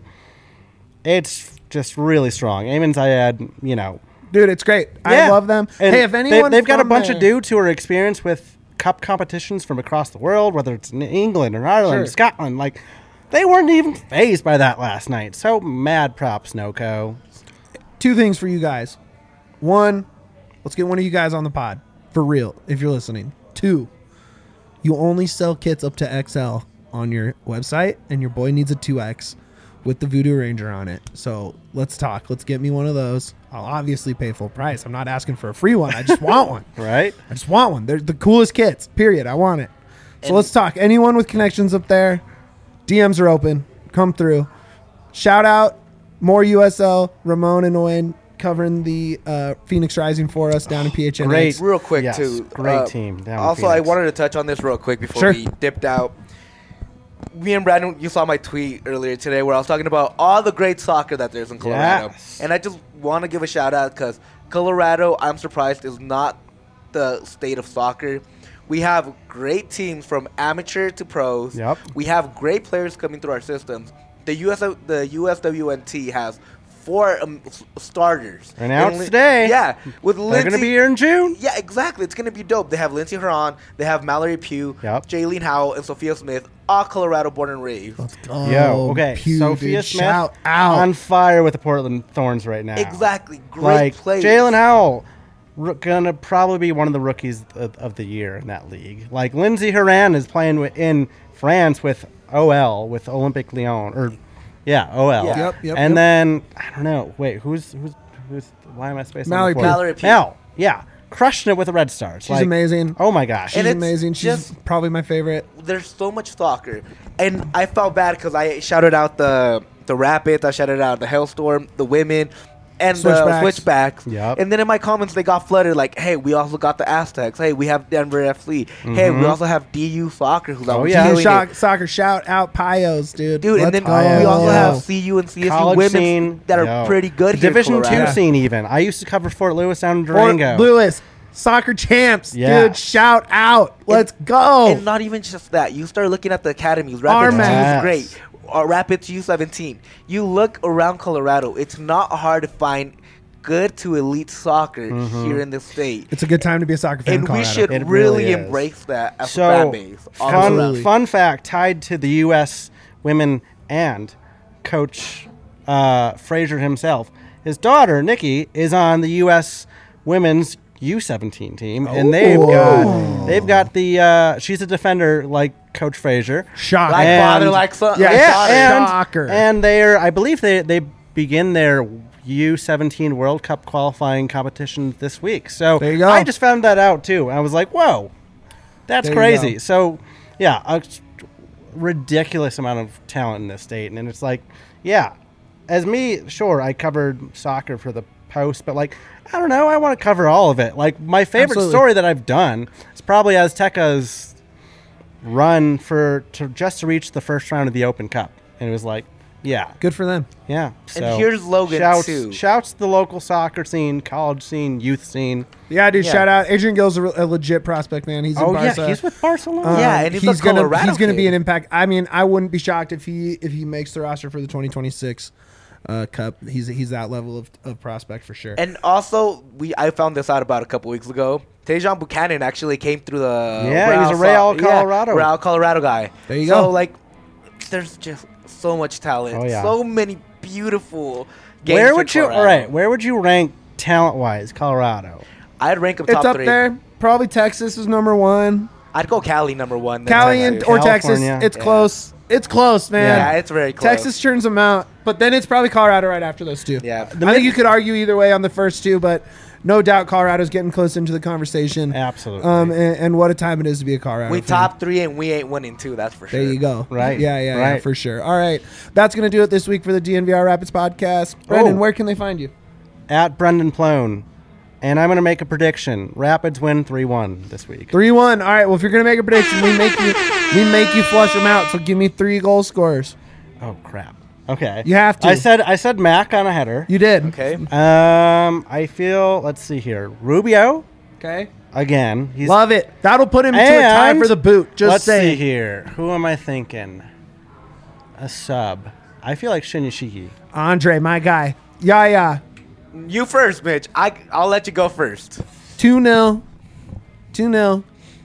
it's just really strong. Eamon Zayed, Dude, it's great. I yeah. love them. And hey, if anyone they've got a from bunch there- of dudes who are experienced with cup competitions from across the world, whether it's in England or Ireland, Sure. Scotland, like they weren't even fazed by that last night. So mad props, NOCO. 2 things for you guys. One, let's get one of you guys on the pod for real if you're listening. 2, you only sell kits up to XL on your website, and your boy needs a 2X with the Voodoo Ranger on it. So let's talk. Let's get me one of those. I'll obviously pay full price. I'm not asking for a free one. I just want one. Right? I just want one. They're the coolest kits, period. I want it. So And- let's talk. Anyone with connections up there, DMs are open. Come through. Shout out more USL, Ramon and Owen covering the Phoenix Rising for us down in PHNX. Great. Real quick, Yes, too. great team down in Also, I Phoenix. wanted to touch on this real quick before Sure. we dipped out. Me and Brandon, you saw my tweet earlier today where I was talking about all the great soccer that there's in Colorado. Yes. And I just want to give a shout out because Colorado, I'm surprised, is not the state of soccer. We have great teams from amateur to pros. Yep. We have great players coming through our systems. The USWNT has 4 starters. They're announced And today. Yeah. With They're going to Lindsey- be here in June. yeah, exactly. It's going to be dope. They have Lindsey Huron, they have Mallory Pugh, Yep. Jaylene Howell, and Sophia Smith, all Colorado born and raised. Oh, Yo, okay. Pew, Sophia dude, Smith shout out. on fire with the Portland Thorns right now. Exactly. Great Like players. Jalen Howell, gonna probably be one of the rookies of the year in that league. Like Lindsey Horan is playing in France with OL, with Olympique Lyon, or OL. Yeah. Yep, And then I don't know. Wait, who's? Why am I spacing? Mallory on the Pugh. fourth? Mallory Pugh. Mel, yeah, crushing it with the Red Stars. She's amazing. Oh my gosh. She's And it's amazing. She's just- probably my favorite. There's so much soccer. And I felt bad because I shouted out the Rapids, I shouted out the Hellstorm, the women, and the Switchbacks. Switchbacks. Yep. And then in my comments, they got flooded like, hey, we also got the Aztecs. Hey, we have Denver FC. Hey, we also have DU Soccer, who's out yeah. killing it. Soccer, shout out Pios, dude. Dude, Let's and then go. we also Yo. have CU and CSU College women scene that are yo. pretty good The here in Division Colorado. 2 scene even. I used to cover Fort Lewis down in Fort Durango. Lewis, soccer champs, Yeah. dude. Shout out. Let's go. And not even just that. You start looking at the academies. Rapids Armax. is Yes. great. Rapids U17. You look around Colorado. It's not hard to find good to elite soccer here in the state. It's a good time to be a soccer fan in And we Colorado. should It really really is. embrace that as a fan So, base. all around. Absolutely. fun fact tied to the U.S. women and Coach Frazier himself. His daughter, Nikki, is on the U.S. women's U17 team, and they've got the she's a defender like Coach Frazier. Shock. Like And- father, like son. Yeah, like daughter. and, Shocker. and they're I believe they begin their U17 World Cup qualifying competition this week. So There you go. I just found that out too. I was like, whoa, that's There you crazy. go. So yeah, a ridiculous amount of talent in this state, and it's like, yeah, as me, sure, I covered soccer for the Post, but like, I don't know, I want to cover all of it. Like my favorite Absolutely. story that I've done is probably Azteca's run just to reach the first round of the Open Cup, and it was like, yeah, Good for them. yeah. So here's Logan, shouts, too. Shouts to the local soccer scene, college scene, youth scene. Yeah, dude. Yeah. Shout out. Adrian Gill's a legit prospect, man. He's in Oh Barca. yeah, he's with Barcelona. Yeah, and he's a gonna Colorado be kid. an impact. I mean, I wouldn't be shocked if he makes the roster for the 2026 Cup. He's that level of prospect for sure. And also, I found this out about a couple weeks ago. Tejan Buchanan actually came through the Yeah, he was a Real Colorado. Real Colorado guy. There you so, go. like, there's just so much talent. Oh, yeah. So many beautiful games. Where in would you? Colorado. All right, where would you rank talent-wise Colorado? I'd rank them It's top up 3. there. Probably Texas is number one. I'd go Cali number 1. then Cali Texas. or Texas. California. It's Yeah. close. It's close, man. Yeah, it's very close. Texas turns them out, but then it's probably Colorado right after those two. Yeah. I think you could argue either way on the first two, but no doubt Colorado's getting close into the conversation. Absolutely. And what a time it is to be a Colorado We fan. top 3 and we ain't winning 2. That's for sure. There you go. Right. Yeah, Right. for sure. All right. That's going to do it this week for the DNVR Rapids podcast. Brendan, Oh. where can they find you? At Brendan Plone, and I'm going to make a prediction: Rapids win 3-1 this week. 3-1. All right. Well, if you're going to make a prediction, we make you flush them out. So give me 3 goal scorers. Oh crap. Okay. You have to. I said Mac on a header. You did. Okay. I feel. Let's see here. Rubio Okay. again. He's Love it. That'll put him to a tie And for the boot. Just let's see saying. here. Who am I thinking? A sub. I feel like Shinyashiki. Andre, my guy. Yeah. You first, Mitch. I'll let you go first. 2-0. 2-0.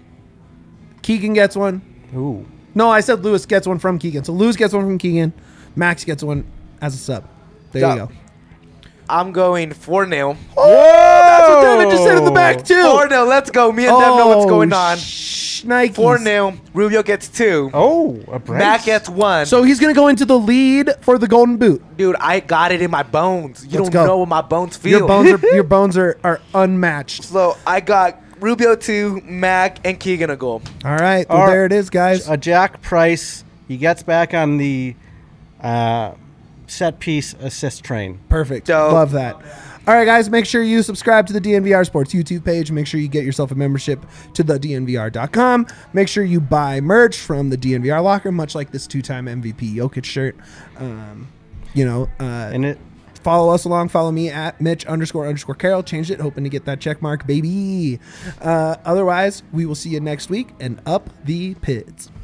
Keegan gets one. Ooh. No, I said Lewis gets one from Keegan. So Lewis gets one from Keegan. Max gets one as a sub. There you Done. go. I'm going 4-0. That's what Devin just said in the back, too. 4-0. Let's go. Me and Dev know what's going on. Nikes. 4-0. Rubio gets 2. Oh, a brace. Mac gets 1. So he's going to go into the lead for the Golden Boot. Dude, I got it in my bones. You Let's don't go. know what my bones feel. Your bones are unmatched. So I got Rubio 2, Mac, and Keegan a goal. All right. Well, there it is, guys. A Jack Price. He gets back on the set piece assist train. Perfect. Dope. Love that. All right, guys, make sure you subscribe to the DNVR Sports YouTube page. Make sure you get yourself a membership to the DNVR.com. Make sure you buy merch from the DNVR locker, much like this 2-time MVP Jokic shirt. And it Follow us along. Follow me at Mitch__Carroll. Changed it, hoping to get that check mark, baby. Otherwise, we will see you next week and up the pits.